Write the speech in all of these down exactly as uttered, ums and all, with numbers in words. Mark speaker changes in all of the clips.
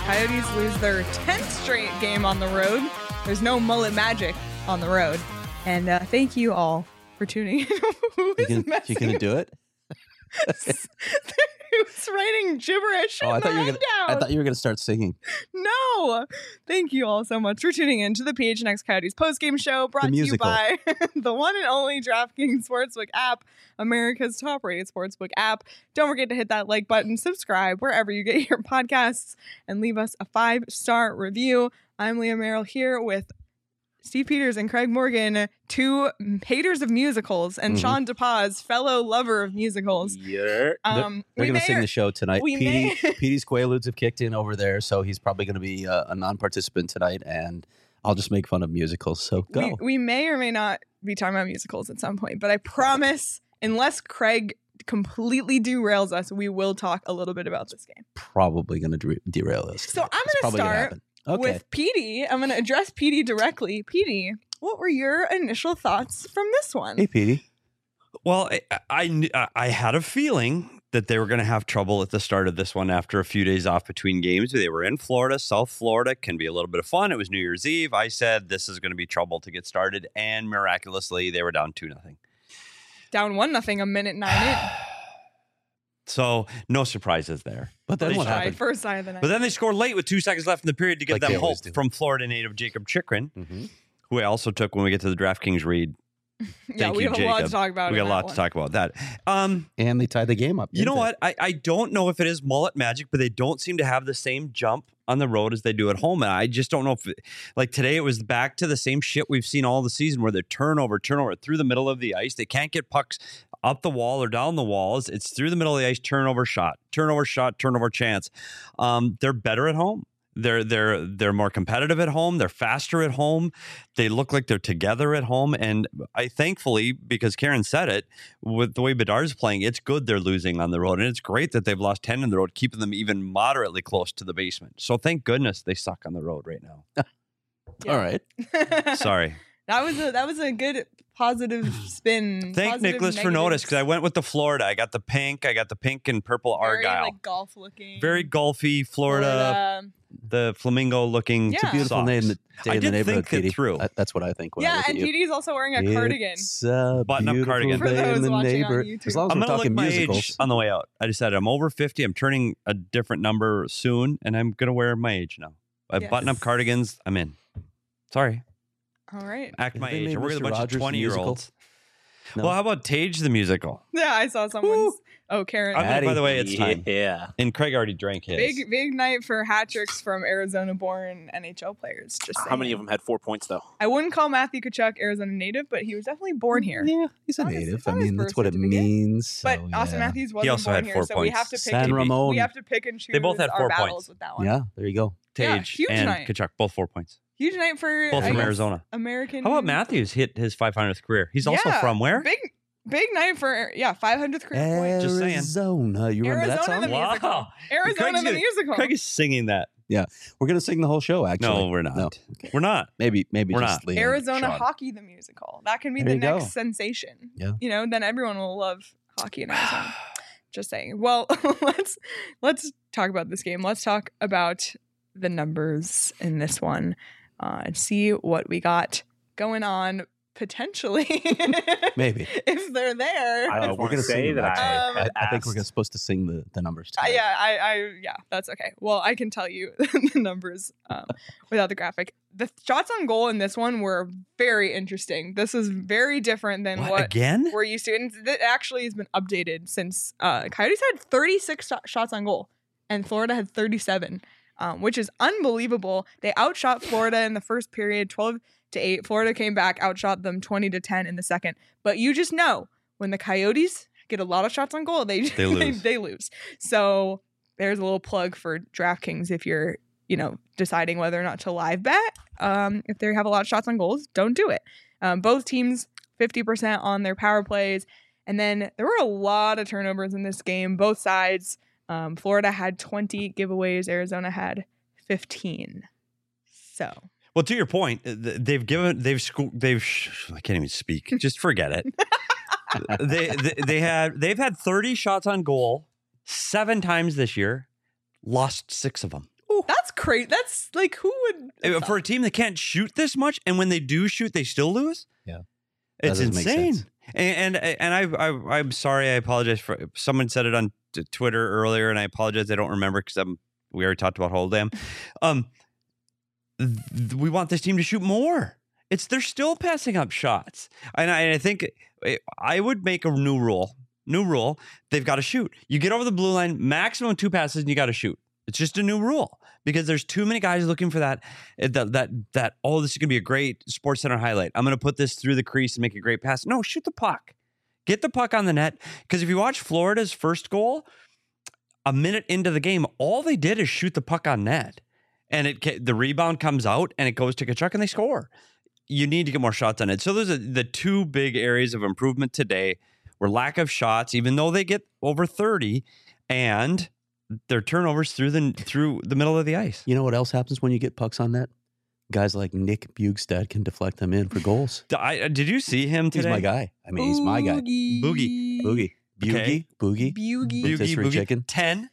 Speaker 1: Coyotes lose their tenth straight game on the road. There's no mullet magic on the road. And uh, thank you all for tuning in. Who is
Speaker 2: you can, you gonna do it?
Speaker 1: Who's writing gibberish
Speaker 2: Oh,
Speaker 1: in
Speaker 2: I
Speaker 1: the
Speaker 2: thought you were gonna. I
Speaker 1: rundown?
Speaker 2: thought you were gonna start singing.
Speaker 1: No. Thank you all so much for tuning in to the P H N X Coyotes postgame show, brought to you
Speaker 2: musical.
Speaker 1: by the one and only DraftKings Sportsbook app, America's top-rated sportsbook app. Don't forget to hit that like button, subscribe wherever you get your podcasts, and leave us a five-star review. I'm Leah Merrill here with Steve Peters and Craig Morgan, two haters of musicals, and
Speaker 2: Mhm.
Speaker 1: Sean DePaz, fellow lover of musicals.
Speaker 3: Yeah.
Speaker 1: Um,
Speaker 2: They're
Speaker 1: we
Speaker 2: going
Speaker 1: may
Speaker 2: to sing
Speaker 1: or-
Speaker 2: the show tonight.
Speaker 1: we
Speaker 2: Petey,
Speaker 1: may-
Speaker 2: Petey's Quaaludes have kicked in over there, so he's probably going to be a, a non-participant tonight, and I'll just make fun of musicals. So go.
Speaker 1: We, we may or may not be talking about musicals at some point, but I promise, unless Craig completely derails us, we will talk a little bit about this game.
Speaker 2: Probably going to de- derail us.
Speaker 1: So I'm
Speaker 2: It's
Speaker 1: going to
Speaker 2: probably gonna
Speaker 1: start
Speaker 2: happen. Okay.
Speaker 1: with Petey. I'm going to address Petey directly. Petey, what were your initial thoughts from this one?
Speaker 2: Hey, Petey.
Speaker 3: Well, I, I kn- I had a feeling that they were going to have trouble at the start of this one after a few days off between games. They were in Florida. South Florida can be a little bit of fun. It was New Year's Eve. I said this is going to be trouble to get started, and miraculously they were down two nothing.
Speaker 1: Down one nothing, a minute nine in.
Speaker 3: So no surprises there.
Speaker 2: But then
Speaker 3: They
Speaker 2: what
Speaker 3: tried.
Speaker 2: happened?
Speaker 1: First side of the night.
Speaker 3: But then they scored late with two seconds left in the period to give
Speaker 2: Like
Speaker 3: them
Speaker 2: they
Speaker 3: hope
Speaker 2: always do.
Speaker 3: from Florida native Jacob Chikrin,
Speaker 2: Mm-hmm.
Speaker 3: who I also took when we get to the DraftKings read.
Speaker 1: yeah,
Speaker 3: Thank
Speaker 1: we
Speaker 3: you,
Speaker 1: have a lot to
Speaker 3: Jacob.
Speaker 1: talk about.
Speaker 3: We
Speaker 1: in
Speaker 3: got a
Speaker 1: that
Speaker 3: lot
Speaker 1: one.
Speaker 3: to talk about that. Um,
Speaker 2: And they tied the game up.
Speaker 3: You know
Speaker 2: didn't they?
Speaker 3: what? I, I don't know if it is mullet magic, but they don't seem to have the same jump on the road as they do at home. And I just don't know if, it, like today, it was back to the same shit we've seen all the season where they're turnover, turnover through the middle of the ice. They can't get pucks up the wall or down the walls. It's through the middle of the ice, turnover shot, turnover shot, turnover chance. Um, they're better at home. They're they're they're more competitive at home. They're faster at home. They look like they're together at home. And I thankfully, because Karen said it, with the way Bedard's playing, it's good they're losing on the road. And it's great that they've lost ten on the road, keeping them even moderately close to the basement. So thank goodness they suck on the road right now.
Speaker 1: Yeah.
Speaker 2: All right.
Speaker 3: Sorry.
Speaker 1: That was a that was a good positive spin.
Speaker 3: Thank
Speaker 1: positive
Speaker 3: Nicholas for
Speaker 1: negatives.
Speaker 3: notice, because I went with the Florida. I got the pink. I got the pink and purple
Speaker 1: Very,
Speaker 3: Argyle.
Speaker 1: like golf looking.
Speaker 3: Very golfy Florida, the flamingo looking.
Speaker 1: Yeah.
Speaker 2: It's a beautiful
Speaker 3: socks.
Speaker 2: name. The day
Speaker 3: I
Speaker 2: in the
Speaker 3: did
Speaker 2: neighborhood,
Speaker 3: think it
Speaker 2: Petey.
Speaker 3: through.
Speaker 2: I- that's what I think when I
Speaker 1: Yeah,
Speaker 2: look
Speaker 1: and
Speaker 2: at you.
Speaker 1: Petey's also wearing a cardigan.
Speaker 2: It's a
Speaker 3: Button-up
Speaker 2: beautiful
Speaker 3: cardigan.
Speaker 1: For
Speaker 2: day
Speaker 1: those
Speaker 2: in the
Speaker 1: watching on
Speaker 2: neighborhood.
Speaker 1: YouTube.
Speaker 2: As long as
Speaker 3: I'm
Speaker 2: we're
Speaker 3: gonna look
Speaker 2: talking
Speaker 3: my
Speaker 2: musicals.
Speaker 3: age on the way out. I decided I'm over fifty. I'm turning a different number soon, and I'm gonna wear my age now. I
Speaker 1: Yes.
Speaker 3: button up cardigans. I'm in. Sorry,
Speaker 1: All right.
Speaker 3: act
Speaker 2: Have
Speaker 3: my
Speaker 2: they
Speaker 3: age.
Speaker 2: made
Speaker 3: We're with a
Speaker 2: Mister
Speaker 3: bunch
Speaker 2: Rogers
Speaker 3: of
Speaker 2: the
Speaker 3: twenty year
Speaker 2: musical?
Speaker 3: olds.
Speaker 2: No?
Speaker 3: Well, how about Tage the musical?
Speaker 1: Yeah, I saw someone's. Oh, Karen.
Speaker 3: I'm gonna- by the way, it's time.
Speaker 4: Yeah.
Speaker 3: And Craig already drank his.
Speaker 1: Big big night for hat tricks from Arizona-born N H L players. Just
Speaker 4: How many
Speaker 1: saying.
Speaker 4: of them had four points though?
Speaker 1: I wouldn't call Matthew Kachuk Arizona native, but he was definitely born here.
Speaker 2: Yeah, he's a
Speaker 1: It's on his-
Speaker 2: native.
Speaker 1: it's
Speaker 2: I
Speaker 1: on his
Speaker 2: mean, that's
Speaker 1: birth
Speaker 2: what it
Speaker 1: certificate.
Speaker 2: means.
Speaker 1: But
Speaker 2: so,
Speaker 1: Austin
Speaker 2: yeah.
Speaker 1: Matthews wasn't
Speaker 3: also
Speaker 1: born
Speaker 3: had
Speaker 1: here,
Speaker 3: four
Speaker 1: so we have to
Speaker 3: points.
Speaker 1: pick
Speaker 2: San
Speaker 1: and
Speaker 2: Ramon.
Speaker 1: we have to pick and choose
Speaker 3: They both had
Speaker 1: our
Speaker 3: four
Speaker 1: battles
Speaker 3: points.
Speaker 1: with that one.
Speaker 2: Yeah, there you go.
Speaker 1: Yeah,
Speaker 3: Tage
Speaker 1: huge
Speaker 3: and
Speaker 1: night.
Speaker 3: Kachuk, both four points.
Speaker 1: Huge night for
Speaker 3: Both
Speaker 1: I
Speaker 3: from
Speaker 1: guess,
Speaker 3: Arizona.
Speaker 1: American.
Speaker 3: How about Matthews hit his five hundredth career? He's also
Speaker 1: Yeah,
Speaker 3: from where?
Speaker 1: Big big night for yeah, five hundredth career point.
Speaker 3: Just saying.
Speaker 2: Arizona. You remember that
Speaker 1: Arizona
Speaker 2: song?
Speaker 1: the musical.
Speaker 3: Wow.
Speaker 1: Arizona
Speaker 3: Craig's
Speaker 1: the
Speaker 3: gonna-
Speaker 1: musical.
Speaker 3: Craig is singing that.
Speaker 2: We're gonna sing the whole show. Actually,
Speaker 3: No, we're not.
Speaker 2: No.
Speaker 3: We're not.
Speaker 2: Maybe, maybe
Speaker 3: We're
Speaker 2: just
Speaker 3: not.
Speaker 2: Leanne,
Speaker 1: Arizona
Speaker 2: Sean.
Speaker 1: hockey the musical. That can be
Speaker 2: There
Speaker 1: the
Speaker 2: you
Speaker 1: next
Speaker 2: go.
Speaker 1: sensation.
Speaker 2: Yeah.
Speaker 1: You know, then everyone will love hockey in Arizona. Just saying. Well, let's let's talk about this game. Let's talk about the numbers in this one uh, and see what we got going on potentially.
Speaker 2: Maybe.
Speaker 1: if they're there.
Speaker 4: I
Speaker 2: Uh,
Speaker 4: don't
Speaker 2: we're
Speaker 4: want to
Speaker 2: gonna
Speaker 4: say
Speaker 2: sing
Speaker 4: that
Speaker 2: them,
Speaker 4: I,
Speaker 1: actually.
Speaker 4: had
Speaker 2: I, I think we're
Speaker 4: asked-
Speaker 2: gonna- supposed to sing the, the numbers.
Speaker 1: Uh,
Speaker 2: tonight.
Speaker 1: yeah, I, I, yeah, that's okay. Well, I can tell you the numbers um, without the graphic. The shots on goal in this one were very interesting. This is very different than
Speaker 3: What,
Speaker 1: what
Speaker 3: again?
Speaker 1: we're used to. And it actually has been updated since uh, Coyotes had thirty-six sh- shots on goal and Florida had thirty-seven, um, which is unbelievable. They outshot Florida in the first period, twelve to eight. Florida came back, outshot them twenty to ten in the second. But you just know when the Coyotes get a lot of shots on goal, they
Speaker 3: They lose.
Speaker 1: they lose. So there's a little plug for DraftKings if you're, you know, deciding whether or not to live bet. Um, if they have a lot of shots on goals, don't do it. Um, both teams fifty percent on their power plays. And then there were a lot of turnovers in this game, both sides. Um, Florida had twenty giveaways. Arizona had fifteen. So
Speaker 3: Well, to your point, th- they've given, they've, sco- they've, sh- I can't even speak. Just forget it. they, they, they had, they've had thirty shots on goal seven times this year, lost six of them.
Speaker 1: That's crazy. That's like who would
Speaker 3: Uh, For a team that can't shoot this much, and when they do shoot, they still lose.
Speaker 2: Yeah. That
Speaker 3: It's
Speaker 2: doesn't make
Speaker 3: insane.
Speaker 2: sense.
Speaker 3: And and, and I, I I'm sorry. I apologize for someone said it on t- Twitter earlier, and I apologize. I don't remember because I'm we already talked about Holdam. Um, th- we want this team to shoot more. It's they're still passing up shots, and I, and I think I would make a new rule. New rule: they've got to shoot. You get over the blue line, maximum two passes, and you got to shoot. It's just a new rule because there's too many guys looking for that, that, that, that, oh, this is going to be a great Sports Center highlight. I'm going to put this through the crease and make a great pass. No, shoot the puck. Get the puck on the net. Because if you watch Florida's first goal, a minute into the game, all they did is shoot the puck on net. And it the rebound comes out and it goes to Tkachuk and they score. You need to get more shots on it. So those are the two big areas of improvement today were lack of shots, even though they get over thirty, and their turnovers through the through the middle of the ice.
Speaker 2: You know what else happens when you get pucks on net? Guys like Nick Bjugstad can deflect them in for goals.
Speaker 3: I, did you see him today?
Speaker 2: He's my guy. I mean, he's my guy.
Speaker 3: Boogie.
Speaker 2: Boogie. Boogie.
Speaker 3: Okay.
Speaker 2: Boogie.
Speaker 1: Boogie.
Speaker 2: Rotisserie chicken.
Speaker 3: ten,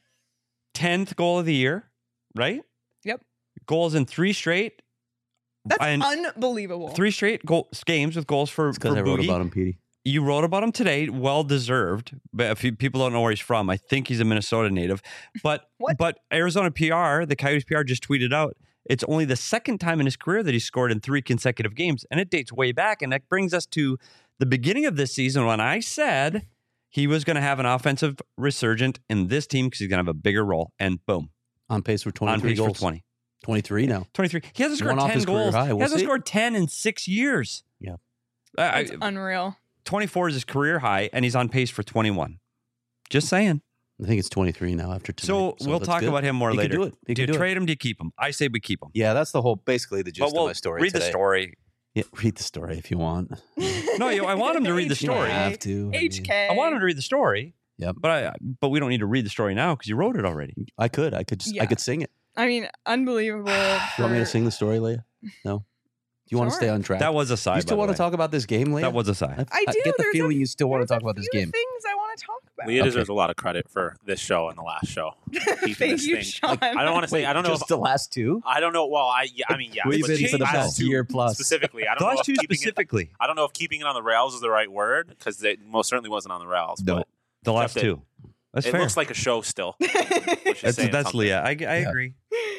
Speaker 3: tenth goal of the year, right?
Speaker 1: Yep.
Speaker 3: Goals in three straight.
Speaker 1: That's
Speaker 3: and
Speaker 1: unbelievable.
Speaker 3: Three straight goal, games with goals for,
Speaker 2: It's because
Speaker 3: for
Speaker 2: I wrote
Speaker 3: Boogie.
Speaker 2: about him, Petey.
Speaker 3: You wrote about him today, well deserved. But if you, people don't know where he's from, I think he's a Minnesota native. But
Speaker 1: What?
Speaker 3: but Arizona P R, the Coyotes P R just tweeted out, it's only the second time in his career that he scored in three consecutive games, and it dates way back. And that brings us to the beginning of this season when I said he was going to have an offensive resurgent in this team because he's going to have a bigger role. And boom,
Speaker 2: On pace for
Speaker 3: on
Speaker 2: twenty-three
Speaker 3: pace
Speaker 2: goals.
Speaker 3: for twenty.
Speaker 2: twenty-three now.
Speaker 3: twenty-three. He hasn't scored
Speaker 2: One off
Speaker 3: ten
Speaker 2: his career
Speaker 3: goals.
Speaker 2: high.
Speaker 3: He
Speaker 2: We'll
Speaker 3: hasn't
Speaker 2: see.
Speaker 3: scored ten in six years.
Speaker 2: Yeah.
Speaker 3: I,
Speaker 1: It's unreal.
Speaker 3: twenty-four is his career high, and he's on pace for twenty-one. Just saying.
Speaker 2: I think it's twenty-three now after tonight.
Speaker 3: So, we'll
Speaker 2: that's
Speaker 3: talk
Speaker 2: good.
Speaker 3: about him more
Speaker 2: He could
Speaker 3: later.
Speaker 2: do it. He
Speaker 3: Do you
Speaker 2: could do it.
Speaker 3: trade him? Do you keep him? I say we keep him.
Speaker 2: Yeah, that's the whole, basically the gist
Speaker 3: But we'll
Speaker 2: of my story
Speaker 3: read
Speaker 2: today.
Speaker 3: the story.
Speaker 2: Yeah, read the story if you want.
Speaker 3: No, you, I want him to read the
Speaker 2: You don't
Speaker 3: story.
Speaker 2: have to. I
Speaker 1: H
Speaker 2: mean,
Speaker 1: K.
Speaker 3: I want him to read the story.
Speaker 2: Yep.
Speaker 3: But I but we don't need to read the story now because you wrote it already.
Speaker 2: I could. I could. Just,
Speaker 1: Yeah.
Speaker 2: I could sing it.
Speaker 1: I mean, unbelievable.
Speaker 2: You want me to
Speaker 1: for-
Speaker 2: sing the story, Leah? No. Do you want to
Speaker 1: Sure.
Speaker 2: stay on track?
Speaker 3: That was a sigh.
Speaker 2: you still
Speaker 3: by
Speaker 2: want
Speaker 3: the
Speaker 2: to
Speaker 3: way.
Speaker 2: talk about this game, Leah?
Speaker 3: That was a sigh.
Speaker 1: I do.
Speaker 2: get the
Speaker 1: There's
Speaker 2: feeling
Speaker 1: a-
Speaker 2: you still want to
Speaker 1: there's
Speaker 2: talk about
Speaker 1: a
Speaker 2: this
Speaker 1: few
Speaker 2: game.
Speaker 1: Things I want to talk about.
Speaker 4: Leah
Speaker 2: Okay.
Speaker 4: deserves a lot of credit for this show and the last show. Keeping
Speaker 1: Thank
Speaker 4: this
Speaker 1: you,
Speaker 4: thing.
Speaker 1: Sean.
Speaker 4: Like, I don't want to say.
Speaker 2: Wait,
Speaker 4: I don't know.
Speaker 2: just
Speaker 4: If,
Speaker 2: the last two.
Speaker 4: I don't know. Well, I. Yeah, I mean, yeah.
Speaker 2: We've
Speaker 4: but
Speaker 2: been for the
Speaker 4: last
Speaker 2: past
Speaker 4: two
Speaker 2: year plus.
Speaker 4: specifically. I
Speaker 3: The
Speaker 4: don't know
Speaker 3: last
Speaker 4: if
Speaker 3: two
Speaker 4: keeping it.
Speaker 3: specifically.
Speaker 4: I don't know if keeping it on the rails is the right word because it most certainly wasn't on the rails.
Speaker 2: No.
Speaker 4: But
Speaker 3: The last
Speaker 4: Except it-
Speaker 3: two. That's
Speaker 4: it
Speaker 3: fair.
Speaker 4: looks like a show still. Which is
Speaker 3: that's
Speaker 4: saying
Speaker 3: that's
Speaker 4: something.
Speaker 3: Leah. I, I
Speaker 2: Yeah.
Speaker 3: agree.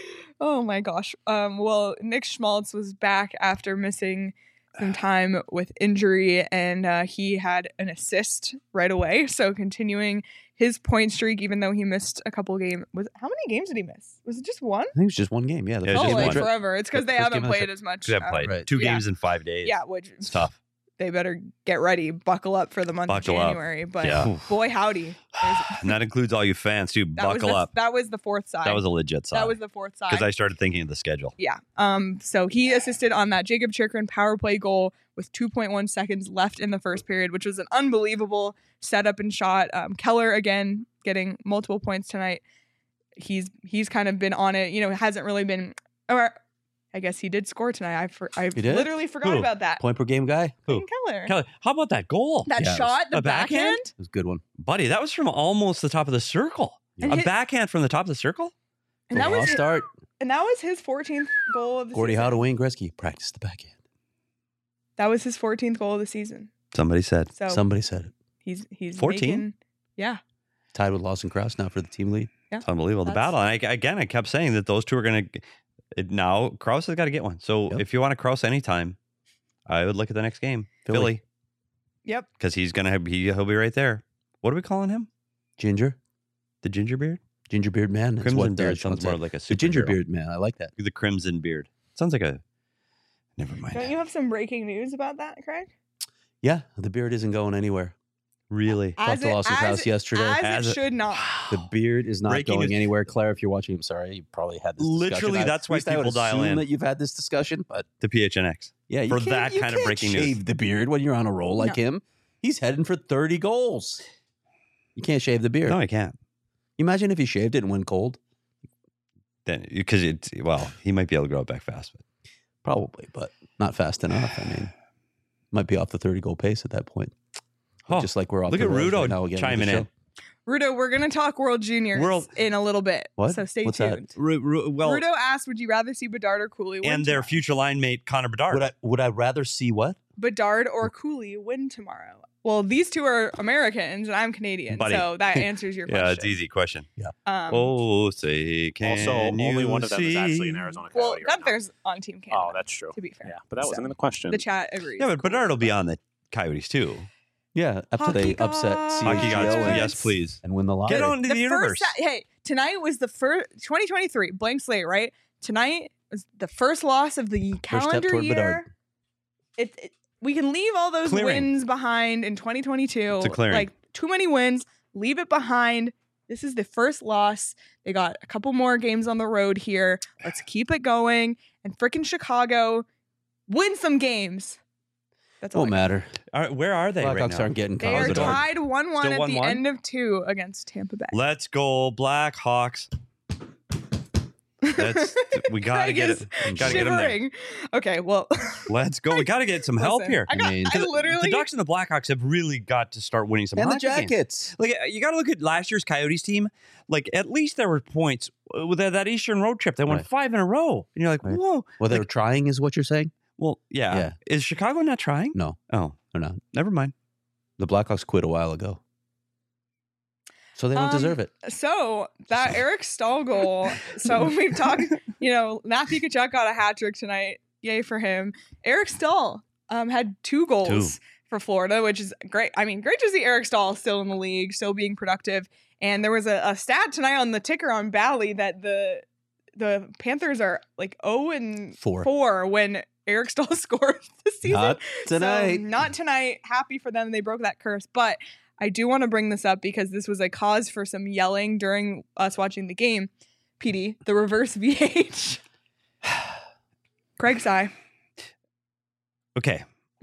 Speaker 1: Oh my gosh. Um, well, Nick Schmaltz was back after missing some time with injury, and uh, he had an assist right away. So continuing his point streak, even though he missed a couple games. Was how many games did he miss? Was it just one?
Speaker 2: I think it was just one game. Yeah. The
Speaker 3: Yeah,
Speaker 2: first
Speaker 1: Oh,
Speaker 3: just
Speaker 2: game
Speaker 1: like
Speaker 2: of the trip.
Speaker 1: forever. It's because they
Speaker 2: First
Speaker 1: haven't
Speaker 2: game of the
Speaker 1: played
Speaker 2: trip.
Speaker 1: as much.
Speaker 3: We haven't
Speaker 1: um,
Speaker 3: played
Speaker 2: Right.
Speaker 3: two
Speaker 1: Yeah.
Speaker 3: games in five days.
Speaker 1: Yeah, which
Speaker 3: It's tough.
Speaker 1: they better get ready, buckle up for the month
Speaker 3: Buckle
Speaker 1: of
Speaker 3: up.
Speaker 1: January. But
Speaker 3: Yeah.
Speaker 1: boy, howdy. There's-
Speaker 3: And that includes all you fans too.
Speaker 1: That was
Speaker 3: Buckle
Speaker 1: the,
Speaker 3: up.
Speaker 1: That was the fourth side.
Speaker 3: That was a legit sign.
Speaker 1: That was the fourth side.
Speaker 3: because I started thinking of the schedule.
Speaker 1: Yeah. Um. So he assisted on that Jacob Chikrin power play goal with two point one seconds left in the first period, which was an unbelievable setup and shot. Um, Keller again getting multiple points tonight. He's he's kind of been on it. You know, hasn't really been. Or I guess he did score tonight. I for, I
Speaker 2: He did?
Speaker 1: literally forgot
Speaker 3: Who?
Speaker 1: about that.
Speaker 2: Point per game guy.
Speaker 3: Who?
Speaker 1: Clayton Keller.
Speaker 3: Kelly, how about that goal?
Speaker 1: That
Speaker 2: Yeah, it was
Speaker 1: shot, the
Speaker 3: a backhand?
Speaker 1: backhand.
Speaker 2: It was a good one.
Speaker 3: Buddy, that was from almost the top of the circle.
Speaker 1: And
Speaker 3: a
Speaker 1: hit-
Speaker 3: backhand from the top of the circle?
Speaker 1: And that
Speaker 2: Raw
Speaker 1: was
Speaker 2: start.
Speaker 1: and that was his fourteenth goal of the
Speaker 2: Gordie
Speaker 1: season.
Speaker 2: Howe to Wayne Gretzky. Practice the backhand.
Speaker 1: That was his fourteenth goal of the season.
Speaker 3: Somebody said.
Speaker 1: So
Speaker 2: Somebody said it.
Speaker 1: he's he's
Speaker 3: fourteen?
Speaker 1: making- yeah.
Speaker 2: Tied with Lawson Krause now for the team lead.
Speaker 3: It's unbelievable. The
Speaker 1: That's-
Speaker 3: battle. And I, again, I kept saying that those two are going to. Now, Krause has got to get one. So
Speaker 2: Yep.
Speaker 3: if you want to Krause anytime, I would look at the next game.
Speaker 2: Philly.
Speaker 3: Philly.
Speaker 1: Yep.
Speaker 3: Because he's going to have, he, he'll be right there. What are we calling him?
Speaker 2: Ginger.
Speaker 3: The ginger beard?
Speaker 2: Ginger beard man. That's
Speaker 3: Crimson
Speaker 2: what, uh,
Speaker 3: beard
Speaker 2: Sean
Speaker 3: sounds more
Speaker 2: said.
Speaker 3: like a
Speaker 2: The ginger
Speaker 3: superhero.
Speaker 2: beard man. I like that.
Speaker 3: The crimson beard. Sounds like a. Never mind.
Speaker 1: Don't you have some breaking news about that, Craig?
Speaker 2: Yeah, the beard isn't going anywhere.
Speaker 3: Really?
Speaker 2: Talked to Lawson Krause yesterday.
Speaker 1: As,
Speaker 3: As
Speaker 1: it
Speaker 3: it-
Speaker 1: should not.
Speaker 2: The beard is not
Speaker 3: Breaking
Speaker 2: going
Speaker 3: news.
Speaker 2: anywhere. Claire, if you're watching, I'm sorry. You probably had this discussion.
Speaker 3: Literally,
Speaker 2: I-
Speaker 3: that's
Speaker 2: at
Speaker 3: why
Speaker 2: least I would
Speaker 3: people dial
Speaker 2: assume
Speaker 3: in.
Speaker 2: that you've had this discussion, but
Speaker 3: The P H N X.
Speaker 2: yeah, you
Speaker 3: For
Speaker 2: can't-
Speaker 3: that
Speaker 2: you
Speaker 3: kind of
Speaker 2: can't
Speaker 3: breaking
Speaker 2: shave
Speaker 3: news.
Speaker 2: the beard when you're on a roll like
Speaker 1: No.
Speaker 2: him. He's heading for thirty goals. You can't shave the beard.
Speaker 3: No, I can't.
Speaker 2: Imagine if he shaved it and went cold.
Speaker 3: Then because it's well, he might be able to grow it back fast, but
Speaker 2: Probably, but not fast enough. I mean, might be off the thirty goal pace at that point.
Speaker 3: Oh,
Speaker 2: Just like we're off
Speaker 3: look
Speaker 2: the
Speaker 3: at
Speaker 2: rails
Speaker 3: Rudo
Speaker 2: right now again with
Speaker 3: chiming
Speaker 2: the show.
Speaker 3: in.
Speaker 1: Rudo, we're gonna talk World Juniors
Speaker 3: World-
Speaker 1: in a little bit.
Speaker 2: What?
Speaker 1: So stay
Speaker 2: What's that?
Speaker 1: tuned.
Speaker 3: Ru- Ru- well,
Speaker 1: Rudo asked, "Would you rather see Bedard or Cooley win
Speaker 3: and their
Speaker 1: tomorrow?"
Speaker 3: future line mate Connor Bedard.
Speaker 2: Would I would I rather see what?
Speaker 1: Bedard or Cooley win tomorrow? Well, these two are Americans and I'm Canadian,
Speaker 3: Buddy.
Speaker 1: so that answers your question.
Speaker 3: yeah, it's easy question.
Speaker 1: Um,
Speaker 3: oh, say can
Speaker 4: Also, only
Speaker 3: you
Speaker 4: one of them is actually
Speaker 3: see?
Speaker 4: an Arizona
Speaker 1: well,
Speaker 4: Coyote right now.
Speaker 1: Gunther's on Team Canada.
Speaker 4: Oh, that's true.
Speaker 1: to be fair.
Speaker 4: Yeah, but that wasn't
Speaker 1: So,
Speaker 4: in the question.
Speaker 1: The chat agrees.
Speaker 3: Yeah, but
Speaker 1: Cooley.
Speaker 3: Bedard will be on the Coyotes too.
Speaker 2: Yeah, after they
Speaker 1: Hockey
Speaker 2: upset
Speaker 1: gods.
Speaker 2: C
Speaker 3: Hockey
Speaker 2: H G O
Speaker 3: gods,
Speaker 2: and,
Speaker 3: yes, please.
Speaker 2: and win the lottery.
Speaker 3: Get on to the,
Speaker 1: The
Speaker 3: universe.
Speaker 1: first, hey, tonight was the first twenty twenty-three blank slate, right? Tonight was the first loss of the
Speaker 2: step
Speaker 1: calendar
Speaker 2: toward
Speaker 1: year.
Speaker 2: Bedard.
Speaker 1: It, it we can leave all those
Speaker 3: Clearing.
Speaker 1: wins behind in twenty twenty-two.
Speaker 3: It's a clearing.
Speaker 1: Like too many wins, leave it behind. This is the first loss. They got a couple more games on the road here. Let's keep it going. And freaking Chicago, win some games. That's all.
Speaker 2: Won't
Speaker 1: I got.
Speaker 2: matter.
Speaker 3: All right, where are they
Speaker 2: Blackhawks
Speaker 3: right now?
Speaker 2: aren't getting
Speaker 1: They
Speaker 2: caught.
Speaker 1: are
Speaker 3: Bedard.
Speaker 1: tied one one
Speaker 3: Still
Speaker 1: at the
Speaker 3: one one?
Speaker 1: end of two against Tampa Bay.
Speaker 3: Let's go Blackhawks. That's we gotta
Speaker 1: Craig
Speaker 3: get
Speaker 1: is
Speaker 3: it. Gotta get them there.
Speaker 1: shivering. Okay, well,
Speaker 3: Let's go. We gotta get some help
Speaker 1: listen,
Speaker 3: here.
Speaker 1: I, got,
Speaker 2: I mean-
Speaker 1: I literally
Speaker 3: The Ducks and the Blackhawks have really got to start winning some
Speaker 2: And the
Speaker 3: hockey games.
Speaker 2: Jackets.
Speaker 3: Like you got to look at last year's Coyotes team. Like at least there were points with that, that Eastern road trip. They won
Speaker 2: Right.
Speaker 3: five in a row, and you're like,
Speaker 2: Right.
Speaker 3: whoa.
Speaker 2: Well, they're
Speaker 3: Like-
Speaker 2: trying, is what you're saying?
Speaker 3: Well, yeah.
Speaker 2: Yeah.
Speaker 3: Is Chicago not trying?
Speaker 2: No,
Speaker 3: Oh,
Speaker 2: they're not.
Speaker 3: never mind.
Speaker 2: The Blackhawks quit a while ago, so they don't
Speaker 1: Um,
Speaker 2: deserve it.
Speaker 1: so that Eric Stahl goal. So we've talked, you know, Matthew Tkachuk got a hat trick tonight. Yay for him. Eric Stahl um, had two goals
Speaker 3: Two.
Speaker 1: for Florida, which is great. I mean, great to see Eric Stahl still in the league, still being productive. And there was a, a stat tonight on the ticker on Bally that the the Panthers are like zero and
Speaker 2: Four.
Speaker 1: four when Eric Stahl scores this season.
Speaker 2: Not tonight.
Speaker 1: So, not tonight. Happy for them. They broke that curse. But I do want to bring this up because this was a cause for some yelling during us watching the game. P D, the reverse V H. Craig sigh.
Speaker 3: Okay.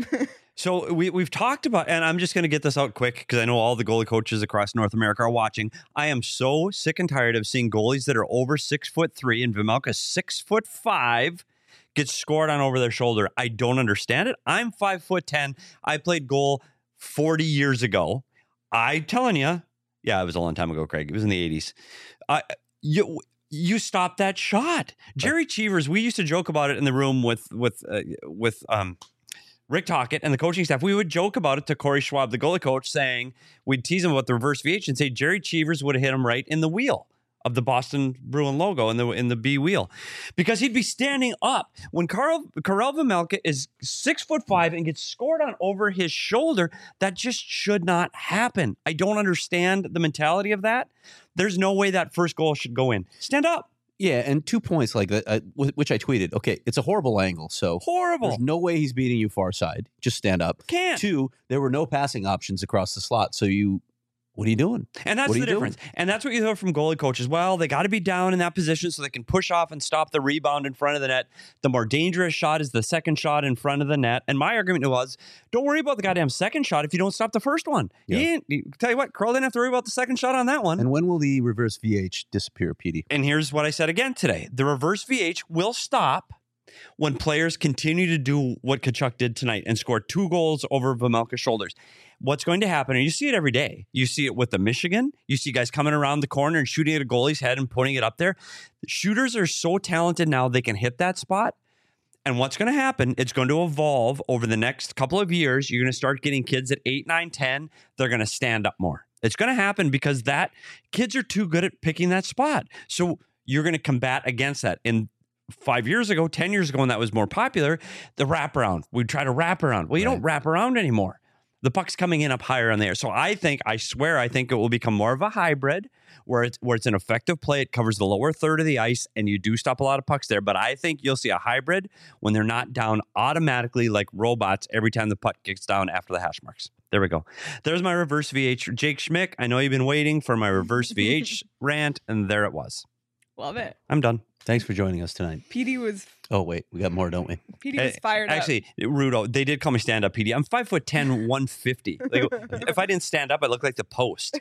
Speaker 3: So we, we've talked about, and I'm just going to get this out quick because I know all the goalie coaches across North America are watching. I am so sick and tired of seeing goalies that are over six foot three and Vejmelka six foot five get scored on over their shoulder. I don't understand it. I'm five foot ten. I played goal forty years ago. I telling you, yeah, it was a long time ago, Craig. It was in the eighties. I you you stopped that shot, Jerry Cheevers. We used to joke about it in the room with with uh, with um. Rick Tocchet and the coaching staff, we would joke about it to Corey Schwab, the goalie coach, saying we'd tease him about the reverse V H and say Jerry Cheevers would have hit him right in the wheel of the Boston Bruin logo in the in the B wheel, because he'd be standing up when Carl Karel Vejmelka is six foot five and gets scored on over his shoulder. That just should not happen. I don't understand the mentality of that. There's no way that first goal should go in. Stand up.
Speaker 2: Yeah, and two points like that, uh, wh- which I tweeted. Okay, it's a horrible angle, so
Speaker 3: Horrible.
Speaker 2: there's no way he's beating you far side. Just stand up.
Speaker 3: Can't.
Speaker 2: Two, there were no passing options across the slot, so you, what are you doing?
Speaker 3: And that's
Speaker 2: What are
Speaker 3: the
Speaker 2: you
Speaker 3: difference.
Speaker 2: doing?
Speaker 3: And that's what you hear from goalie coaches. Well, they got to be down in that position so they can push off and stop the rebound in front of the net. The more dangerous shot is the second shot in front of the net. And my argument was, don't worry about the goddamn second shot if you don't stop the first one.
Speaker 2: Yeah.
Speaker 3: You ain't- you- tell you what, Carl didn't have to worry about the second shot on that one.
Speaker 2: And when will the reverse V H disappear, Petey?
Speaker 3: And here's what I said again today. The reverse V H will stop when players continue to do what Tkachuk did tonight and score two goals over Vejmelka's shoulders. What's going to happen, and you see it every day. You see it with the Michigan. You see guys coming around the corner and shooting at a goalie's head and putting it up there. Shooters are so talented now, they can hit that spot. And what's going to happen, it's going to evolve over the next couple of years. You're going to start getting kids at eight, nine, ten. They're going to stand up more. It's going to happen because that kids are too good at picking that spot. So you're going to combat against that. And five years ago, ten years ago, when that was more popular, the wraparound. We'd try to wrap around. Well, you
Speaker 2: Right.
Speaker 3: don't wrap around anymore. The puck's coming in up higher on there. So I think, I swear, I think it will become more of a hybrid where it's where it's an effective play. It covers the lower third of the ice, and you do stop a lot of pucks there. But I think you'll see a hybrid when they're not down automatically like robots every time the puck kicks down after the hash marks. There we go. There's my reverse V H. Jake Schmick, I know you've been waiting for my reverse V H rant, and there it was.
Speaker 1: Love it.
Speaker 3: I'm done.
Speaker 2: Thanks for joining us tonight.
Speaker 1: P D was
Speaker 2: Oh, wait, we got more, don't we?
Speaker 1: P D was
Speaker 3: Eh,
Speaker 1: fired up.
Speaker 3: Actually, Rudo, they did call me stand up P D. I'm five foot ten, one fifty. Like, if I didn't stand up, I look like the post.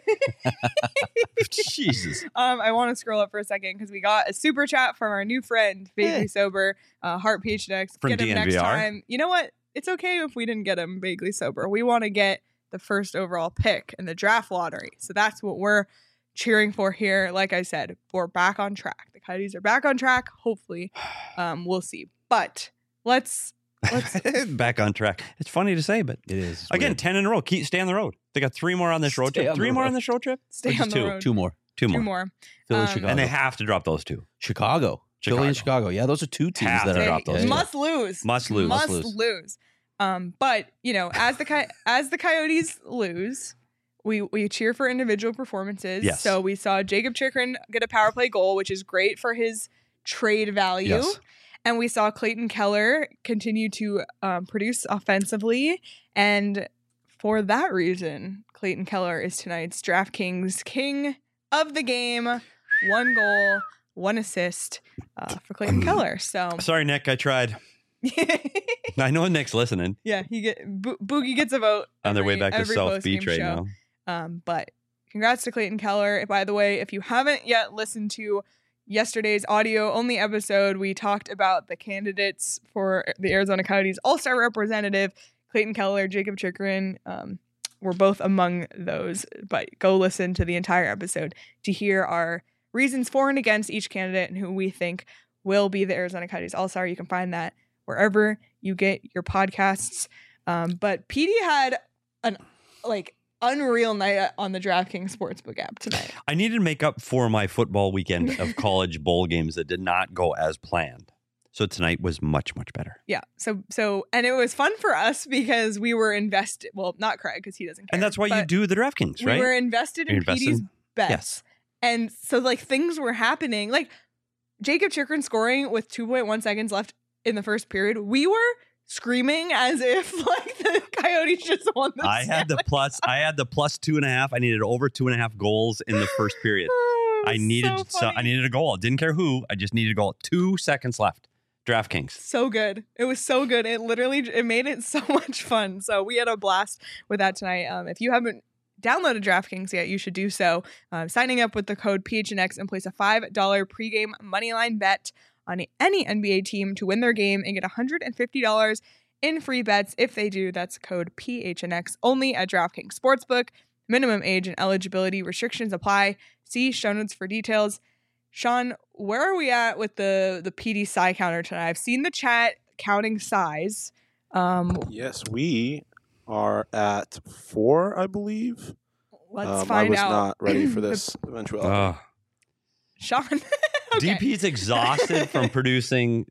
Speaker 3: Jesus.
Speaker 1: Um, I want to scroll up for a second because we got a super chat from our new friend, Vaguely Sober, uh, Heart P H X.
Speaker 3: From
Speaker 1: Get him
Speaker 3: D N
Speaker 1: next
Speaker 3: V R?
Speaker 1: time. You know what? It's okay if we didn't get him vaguely sober. We want to get the first overall pick in the draft lottery. So that's what we're cheering for here. Like I said, we're back on track. The Coyotes are back on track. Hopefully, um, we'll see. But let's let's
Speaker 3: back on track. It's funny to say, but
Speaker 2: It is It's
Speaker 3: again,
Speaker 2: weird.
Speaker 3: ten in a row. Keep stay on the road. They got three more on this road
Speaker 2: Stay
Speaker 3: trip.
Speaker 2: on
Speaker 3: Three
Speaker 2: the
Speaker 3: more
Speaker 2: road.
Speaker 3: on this road trip.
Speaker 1: stay
Speaker 3: Or
Speaker 1: on
Speaker 3: just
Speaker 1: the
Speaker 3: two?
Speaker 1: road.
Speaker 2: two more.
Speaker 3: Two more.
Speaker 1: Two more.
Speaker 2: Philly,
Speaker 1: Um,
Speaker 2: Chicago,
Speaker 3: And they have to drop those two.
Speaker 2: Chicago, Philly, and Chicago. Yeah, those are two teams
Speaker 3: Have
Speaker 2: that
Speaker 3: to
Speaker 2: are
Speaker 3: drop
Speaker 1: They
Speaker 3: those
Speaker 2: yeah,
Speaker 3: two.
Speaker 1: must lose.
Speaker 3: Must lose.
Speaker 1: Must
Speaker 2: Must
Speaker 1: lose.
Speaker 2: lose.
Speaker 1: Um, but you know, as the Coy- as the Coyotes lose, we we cheer for individual performances.
Speaker 3: Yes.
Speaker 1: So we saw Jacob Chikrin get a power play goal, which is great for his trade value.
Speaker 3: Yes.
Speaker 1: And we saw Clayton Keller continue to um, produce offensively. And for that reason, Clayton Keller is tonight's DraftKings king of the game. One goal, one assist uh, for Clayton Keller. So
Speaker 3: Sorry, Nick. I tried. I know Nick's listening
Speaker 1: yeah, he get Bo- Boogie gets a vote
Speaker 3: on their way
Speaker 1: every-
Speaker 3: back to
Speaker 1: every
Speaker 3: South
Speaker 1: post-game
Speaker 3: Beach right
Speaker 1: show.
Speaker 3: now.
Speaker 1: Um, but congrats to Clayton Keller. By the way, if you haven't yet listened to yesterday's audio only episode, we talked about the candidates for the Arizona Coyotes All-Star representative. Clayton Keller, Jacob Chikrin um, were both among those. But go listen to the entire episode to hear our reasons for and against each candidate and who we think will be the Arizona Coyotes All-Star. You can find that wherever you get your podcasts. Um, but P D had an like unreal night on the DraftKings Sportsbook app tonight.
Speaker 3: I needed to make up for my football weekend of college bowl games that did not go as planned. So tonight was much, much better.
Speaker 1: Yeah. So so and it was fun for us because we were invested. Well, not Craig because he doesn't care.
Speaker 3: And that's why you
Speaker 1: but
Speaker 3: do the DraftKings,
Speaker 1: We
Speaker 3: right?
Speaker 1: were invested in
Speaker 3: You're invested-
Speaker 1: P D's bets.
Speaker 3: Yes.
Speaker 1: And so like things were happening. Like Jacob Chikrin scoring with two point one seconds left in the first period. We were screaming as if like the Coyotes just won the
Speaker 3: I had the
Speaker 1: Stanley
Speaker 3: plus. I had the plus two and a half. I needed over two and a half goals in the first period.
Speaker 1: Oh, it
Speaker 3: I
Speaker 1: was
Speaker 3: needed.
Speaker 1: so,
Speaker 3: So, I
Speaker 1: funny.
Speaker 3: needed a goal. I didn't care who. I just needed a goal. Two seconds left. DraftKings.
Speaker 1: So good. It was so good. It literally it made it so much fun. So we had a blast with that tonight. Um, if you haven't downloaded DraftKings yet, you should do so. Um, signing up with the code P H N X and place a five dollars pregame moneyline bet on any N B A team to win their game and get one hundred fifty dollars in free bets if they do. That's code P H N X only at DraftKings Sportsbook. Minimum age and eligibility restrictions apply. See show notes for details. Sean, where are we at with the the P D Psy counter tonight? I've seen the chat counting size. Um,
Speaker 5: Yes, we are at four, I believe.
Speaker 1: let's
Speaker 5: Um, I
Speaker 1: find
Speaker 5: was
Speaker 1: out.
Speaker 5: not ready for this eventuality.
Speaker 3: Oh.
Speaker 1: Sean. okay.
Speaker 3: D P's exhausted from producing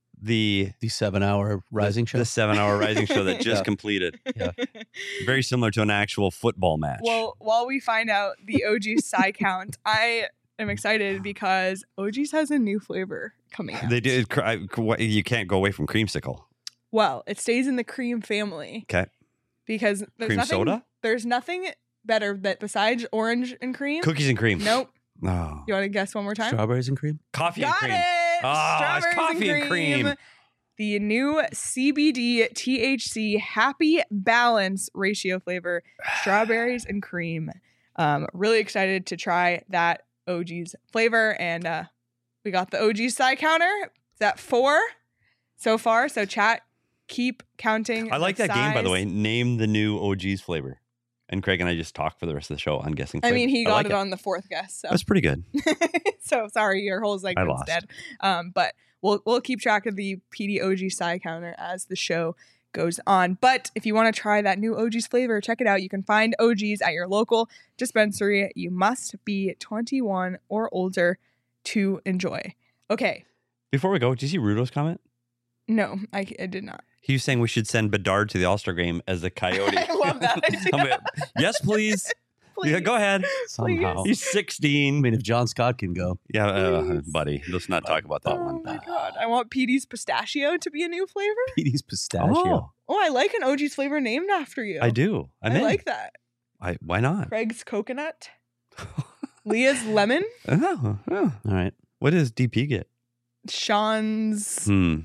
Speaker 3: the
Speaker 2: The seven-hour rising
Speaker 3: the,
Speaker 2: show.
Speaker 3: the seven-hour rising show that just
Speaker 2: Yeah.
Speaker 3: completed.
Speaker 2: Yeah.
Speaker 3: Very similar to an actual football match.
Speaker 1: Well, while we find out the O G Psy count, I am excited because O G's has a new flavor coming out.
Speaker 3: they did. cr- I- cr- You can't go away from creamsicle.
Speaker 1: Well, it stays in the cream family
Speaker 3: Okay.
Speaker 1: because there's
Speaker 3: Cream
Speaker 1: nothing.
Speaker 3: soda?
Speaker 1: There's nothing better that besides orange and cream.
Speaker 3: Cookies and cream.
Speaker 1: Nope.
Speaker 3: Oh.
Speaker 1: You want to guess one more time?
Speaker 2: Strawberries and cream.
Speaker 3: Coffee
Speaker 1: Got
Speaker 3: and cream.
Speaker 1: it.
Speaker 3: Ah, it's
Speaker 1: Strawberries
Speaker 3: coffee and cream.
Speaker 1: The new C B D T H C Happy Balance ratio flavor, strawberries and cream. Um, really excited to try that O G's flavor, and uh, we got the O G Psy counter. Is that four so far? So chat, keep counting.
Speaker 3: I like
Speaker 1: the
Speaker 3: that game, by the
Speaker 1: size.
Speaker 3: way. Name the new O G's flavor. And Craig and I just talk for the rest of the show on guessing
Speaker 1: I
Speaker 3: flavors.
Speaker 1: mean, he got
Speaker 3: like
Speaker 1: it, on the fourth guess. So
Speaker 3: That's pretty good.
Speaker 1: so sorry, your whole segment's
Speaker 3: lost.
Speaker 1: dead. Um, but we'll we'll keep track of the P D O G Psy counter as the show goes on. But if you want to try that new O G's flavor, check it out. You can find O G's at your local dispensary. You must be twenty-one or older to enjoy. Okay.
Speaker 3: Before we go, did you see Rudo's comment?
Speaker 1: No, I, I did not.
Speaker 3: He was saying we should send Bedard to the All-Star game as a Coyote.
Speaker 1: I love that idea.
Speaker 3: I'm like, yes, please. Yeah, go ahead.
Speaker 2: Somehow.
Speaker 3: He's
Speaker 2: I
Speaker 3: sixteen.
Speaker 2: mean, if John Scott can go,
Speaker 3: Yeah, uh,
Speaker 1: Please.
Speaker 3: buddy. Let's not talk about that
Speaker 1: Oh
Speaker 3: one.
Speaker 1: my god. I want P D's pistachio to be a new flavor.
Speaker 2: P D's pistachio.
Speaker 3: Oh,
Speaker 1: Oh, I like an O G's flavor named after you.
Speaker 3: I do. I'm
Speaker 1: I
Speaker 3: in.
Speaker 1: like that.
Speaker 3: I, why not?
Speaker 1: Craig's coconut. Leah's lemon.
Speaker 3: Oh, oh.
Speaker 2: All right.
Speaker 3: What does D P get?
Speaker 1: Sean's
Speaker 3: Hmm.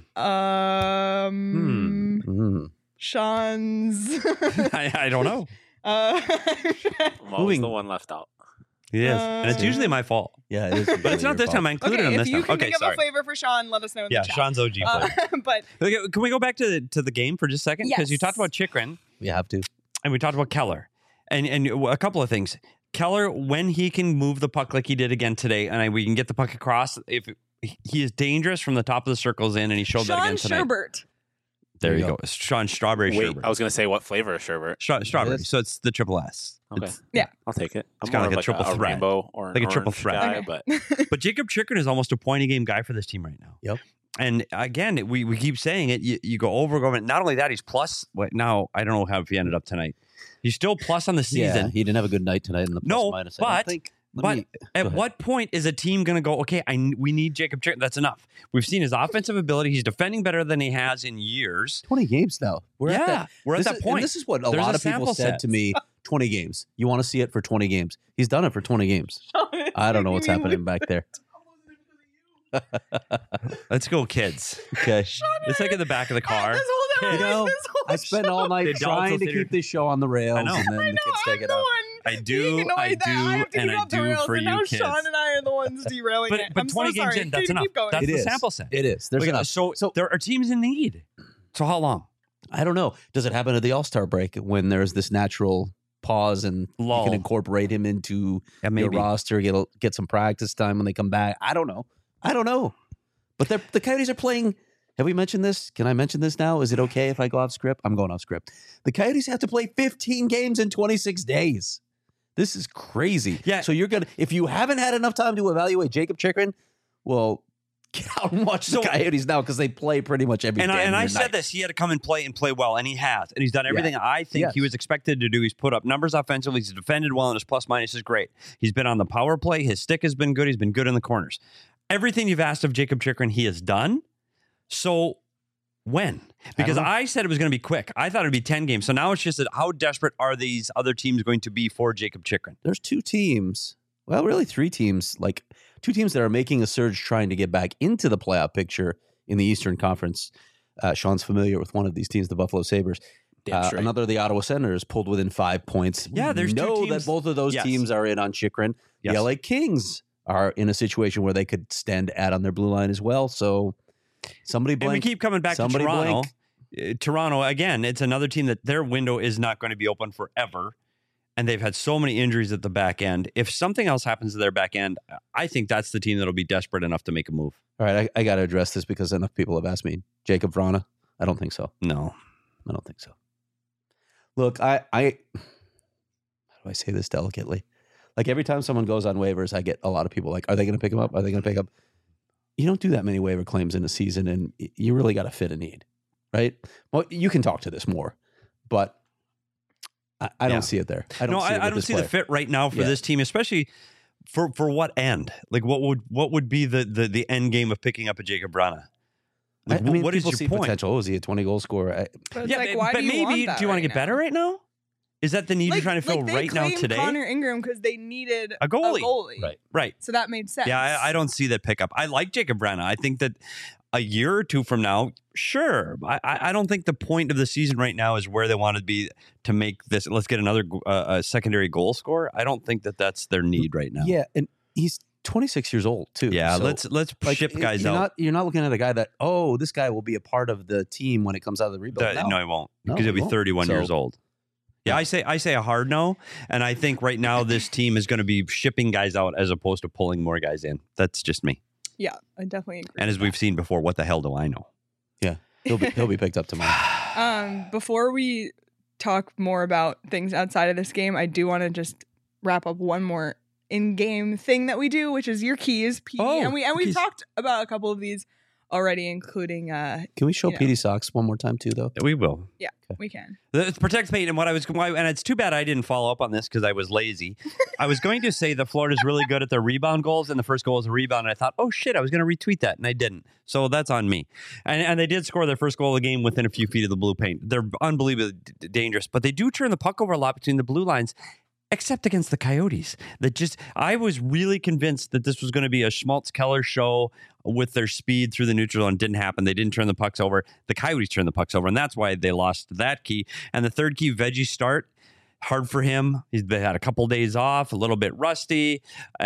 Speaker 1: um
Speaker 2: Mm.
Speaker 1: Sean's
Speaker 3: I, I don't know.
Speaker 1: uh
Speaker 4: What was
Speaker 2: Moving-
Speaker 4: the one left out?
Speaker 3: Yes, and it's
Speaker 1: Uh,
Speaker 3: usually my fault.
Speaker 2: Yeah, it is.
Speaker 3: But it's not this time. I included
Speaker 1: okay,
Speaker 3: him
Speaker 1: if
Speaker 3: this
Speaker 1: you
Speaker 3: time.
Speaker 1: can
Speaker 3: Okay,
Speaker 1: think of
Speaker 3: sorry.
Speaker 1: a flavor for Sean, let us know in
Speaker 3: Yeah,
Speaker 1: the chat.
Speaker 3: Sean's O G
Speaker 1: Uh,
Speaker 3: flavor.
Speaker 1: but
Speaker 3: Okay, can we go back to the, to the game for just a second? Because you
Speaker 1: Yes.
Speaker 3: talked about Chikrin
Speaker 2: We have to.
Speaker 3: and we talked about Keller. And and a couple of things. Keller, when he can move the puck like he did again today, and I, we can get the puck across, if he is dangerous from the top of the circles in, and he showed
Speaker 1: Sean
Speaker 3: that again tonight.
Speaker 1: Sherbert.
Speaker 3: There,
Speaker 2: There
Speaker 3: you
Speaker 2: you
Speaker 3: go. Sean Strawberry
Speaker 4: Wait,
Speaker 3: Sherbert.
Speaker 4: I was gonna say what flavor of sherbet?
Speaker 3: Stra- strawberry.
Speaker 2: Yes.
Speaker 3: So it's the triple S.
Speaker 4: Okay,
Speaker 3: It's-
Speaker 1: Yeah.
Speaker 4: I'll take it. I'm
Speaker 3: It's kinda
Speaker 4: more
Speaker 3: like a
Speaker 4: of
Speaker 3: triple
Speaker 4: a,
Speaker 3: threat.
Speaker 4: rainbow or an
Speaker 3: Like a triple
Speaker 4: orange
Speaker 3: threat.
Speaker 4: guy,
Speaker 1: Okay.
Speaker 4: but
Speaker 3: But Jacob Chikrin is almost a point a game guy for this team right now.
Speaker 2: Yep.
Speaker 3: And again, we, we keep saying it. You, you go over, over. Not only that, he's plus. Wait, now I don't know how he ended up tonight. He's still plus on the
Speaker 2: Yeah,
Speaker 3: season.
Speaker 2: he didn't have a good night tonight in the plus
Speaker 3: No,
Speaker 2: minus. I don't
Speaker 3: but-
Speaker 2: think. Let
Speaker 3: but
Speaker 2: me- go
Speaker 3: At
Speaker 2: ahead.
Speaker 3: what point is a team going to go, okay, I, n- we need Jacob Chikrin. That's enough. We've seen his offensive ability. He's defending better than he has in years.
Speaker 2: twenty games now. We're
Speaker 3: yeah,
Speaker 2: at that.
Speaker 3: we're at
Speaker 2: this
Speaker 3: that
Speaker 2: is,
Speaker 3: point.
Speaker 2: And this is what a
Speaker 3: There's
Speaker 2: lot
Speaker 3: a
Speaker 2: of people
Speaker 3: sample
Speaker 2: said
Speaker 3: set.
Speaker 2: to me. twenty games. You want to see it for twenty games. He's done it for twenty games. I don't know what's happening back there.
Speaker 3: Let's go, kids.
Speaker 2: Okay.
Speaker 3: It's like in the back of the car.
Speaker 1: This whole
Speaker 2: You
Speaker 1: time,
Speaker 2: know,
Speaker 1: this whole
Speaker 2: I spent all night
Speaker 3: The adults
Speaker 2: trying
Speaker 3: will
Speaker 2: to
Speaker 3: sit here-
Speaker 2: keep this show on the rails,
Speaker 3: I know.
Speaker 2: and then
Speaker 1: I
Speaker 2: the
Speaker 1: know,
Speaker 2: kids
Speaker 1: I'm
Speaker 2: take it
Speaker 1: the
Speaker 2: out.
Speaker 1: one
Speaker 3: I
Speaker 1: being
Speaker 3: do,
Speaker 1: annoyed
Speaker 3: I
Speaker 1: that
Speaker 3: do,
Speaker 1: I have to
Speaker 3: and
Speaker 1: keep
Speaker 3: I
Speaker 1: up the
Speaker 3: do
Speaker 1: rails,
Speaker 3: for
Speaker 1: and
Speaker 3: you
Speaker 1: now
Speaker 3: kids.
Speaker 1: Sean and I are the ones derailing
Speaker 3: But,
Speaker 1: it.
Speaker 3: but
Speaker 1: I'm
Speaker 3: twenty
Speaker 1: so
Speaker 3: games
Speaker 1: sorry.
Speaker 3: in, that's
Speaker 1: Keep
Speaker 3: enough.
Speaker 1: going.
Speaker 3: That's
Speaker 2: It
Speaker 3: the
Speaker 2: is.
Speaker 3: sample set.
Speaker 2: It is. There's
Speaker 3: Okay,
Speaker 2: enough.
Speaker 3: So,
Speaker 2: So-
Speaker 3: there are teams in need. So how long?
Speaker 2: I don't know. Does it happen at the All Star break when there's this natural pause and
Speaker 3: Lull.
Speaker 2: you can incorporate him into
Speaker 3: Yeah,
Speaker 2: your
Speaker 3: maybe.
Speaker 2: roster, get a, get some practice time when they come back? I don't know. I don't know. But they're- the Coyotes are playing. Have we mentioned this? Can I mention this now? Is it okay if I go off script? I'm going off script. The Coyotes have to play fifteen games in twenty-six days. This is crazy.
Speaker 3: Yeah.
Speaker 2: So you're gonna if you haven't had enough time to evaluate Jacob Chikrin, well, get out and watch
Speaker 3: So-
Speaker 2: the Coyotes now because they play pretty much every
Speaker 3: And I,
Speaker 2: damn
Speaker 3: and I
Speaker 2: near
Speaker 3: said
Speaker 2: night.
Speaker 3: this, he had to come and play and play well, and he has. And he's done
Speaker 2: Yeah.
Speaker 3: everything I think
Speaker 2: Yes.
Speaker 3: he was expected to do. He's put up numbers offensively. He's defended well, and his plus minus is great. He's been on the power play. His stick has been good. He's been good in the corners. Everything you've asked of Jacob Chikrin, he has done. So when? Because
Speaker 2: know.
Speaker 3: I, said it was going to be quick. I thought it would be ten games. So now it's just that how desperate are these other teams going to be for Jacob Chikrin?
Speaker 2: There's two teams, well, really three teams, like two teams that are making a surge trying to get back into the playoff picture in the Eastern Conference. Uh, Sean's familiar with one of these teams, the Buffalo Sabres.
Speaker 4: Damn
Speaker 2: Uh,
Speaker 4: straight.
Speaker 2: another, the Ottawa Senators, pulled within five points.
Speaker 3: Yeah,
Speaker 2: We
Speaker 3: there's two
Speaker 2: know
Speaker 3: teams-
Speaker 2: that both of those
Speaker 3: Yes.
Speaker 2: teams are in on Chikrin.
Speaker 3: Yes.
Speaker 2: The L A Kings are in a situation where they could stand at on their blue line as well. So somebody
Speaker 3: And we
Speaker 2: blink.
Speaker 3: keep coming back
Speaker 2: Somebody
Speaker 3: to Toronto.
Speaker 2: blink.
Speaker 3: Uh, Toronto, again, it's another team that their window is not going to be open forever. And they've had so many injuries at the back end. If something else happens to their back end, I think that's the team that'll be desperate enough to make a move.
Speaker 2: All right, I, I got to address this because enough people have asked me. Jacob Vrana? I don't think so.
Speaker 3: No.
Speaker 2: I don't think so. Look, I, I, how do I say this delicately? Like every time someone goes on waivers, I get a lot of people like, are they going to pick him up? Are they going to pick up? You don't do that many waiver claims in a season, and y- you really got to fit a need, right? Well, you can talk to this more, but I, I
Speaker 3: Yeah.
Speaker 2: don't see it there. I don't
Speaker 3: no,
Speaker 2: see
Speaker 3: I,
Speaker 2: it
Speaker 3: I
Speaker 2: with
Speaker 3: don't
Speaker 2: this
Speaker 3: see the
Speaker 2: player.
Speaker 3: fit right now for
Speaker 2: Yeah.
Speaker 3: this team, especially for for what end? Like what would what would be the the, the end game of picking up a Jacob Brana?
Speaker 2: I,
Speaker 3: Like,
Speaker 2: I mean,
Speaker 3: what is
Speaker 2: people
Speaker 3: your
Speaker 2: see
Speaker 3: point?
Speaker 2: potential. Oh, is he a twenty goal scorer? I,
Speaker 1: But it's
Speaker 3: Yeah,
Speaker 1: like,
Speaker 3: but,
Speaker 1: why
Speaker 3: but
Speaker 1: do you
Speaker 3: maybe
Speaker 1: want that
Speaker 3: do you want
Speaker 1: right
Speaker 3: to get
Speaker 1: now?
Speaker 3: better right now? Is that the need you're trying to fill
Speaker 1: like they
Speaker 3: right now
Speaker 1: claimed
Speaker 3: today?
Speaker 1: Connor Ingram because they needed
Speaker 3: A goalie.
Speaker 1: A goalie.
Speaker 2: Right.
Speaker 3: Right.
Speaker 1: So that made sense.
Speaker 3: Yeah, I, I don't see that pickup. I like Jacob Brana. I think that a year or two from now, sure. I, I I don't think the point of the season right now is where they want to be to make this. Let's get another uh, a secondary goal scorer. I don't think that that's their need right now.
Speaker 2: yeah, and he's twenty-six years old too.
Speaker 3: Yeah,
Speaker 2: so,
Speaker 3: let's let's
Speaker 2: like,
Speaker 3: ship
Speaker 2: y-
Speaker 3: guys
Speaker 2: you're
Speaker 3: out.
Speaker 2: Not, you're not looking at a guy that, oh, this guy will be a part of the team when it comes out of the rebuild.
Speaker 3: That- no, he won't
Speaker 2: No,
Speaker 3: because
Speaker 2: he
Speaker 3: he'll be
Speaker 2: won't.
Speaker 3: thirty-one
Speaker 2: So-
Speaker 3: years old. Yeah, I say I say a hard no, and I think right now this team is going to be shipping guys out as opposed to pulling more guys in. That's just me.
Speaker 1: Yeah, I definitely agree.
Speaker 3: And as
Speaker 1: with
Speaker 3: we've seen before, what the hell do I know?
Speaker 2: He'll be, he'll be picked up tomorrow.
Speaker 1: that. Um, before we talk more about things outside of this game, I do want to just wrap up one more in-game thing that we do, which is your keys, P D.
Speaker 3: Oh,
Speaker 1: and we and we've
Speaker 3: keys.
Speaker 1: talked about a couple of these already, including uh,
Speaker 2: Can we show
Speaker 1: You know.
Speaker 2: P D socks one more time too, though?
Speaker 3: We will.
Speaker 1: we can.
Speaker 3: It's protect paint, and what I was, why- and it's too bad I didn't follow up on this because I was lazy. I was going to say that Florida's really good at their rebound goals, and the first goal was a rebound. And I thought, oh shit, I was going to retweet that, and I didn't. So that's on me. And and they did score their first goal of the game within a few feet of the blue paint. They're unbelievably d- dangerous, but they do turn the puck over a lot between the blue lines. Except against the Coyotes, that just I was really convinced that this was going to be a Schmaltz Keller show with their speed through the neutral zone. Didn't happen. They didn't turn the pucks over. The Coyotes turned the pucks over, and that's why they lost that key. And the third key, Veggie start, hard for him. He's they had a couple days off, a little bit rusty,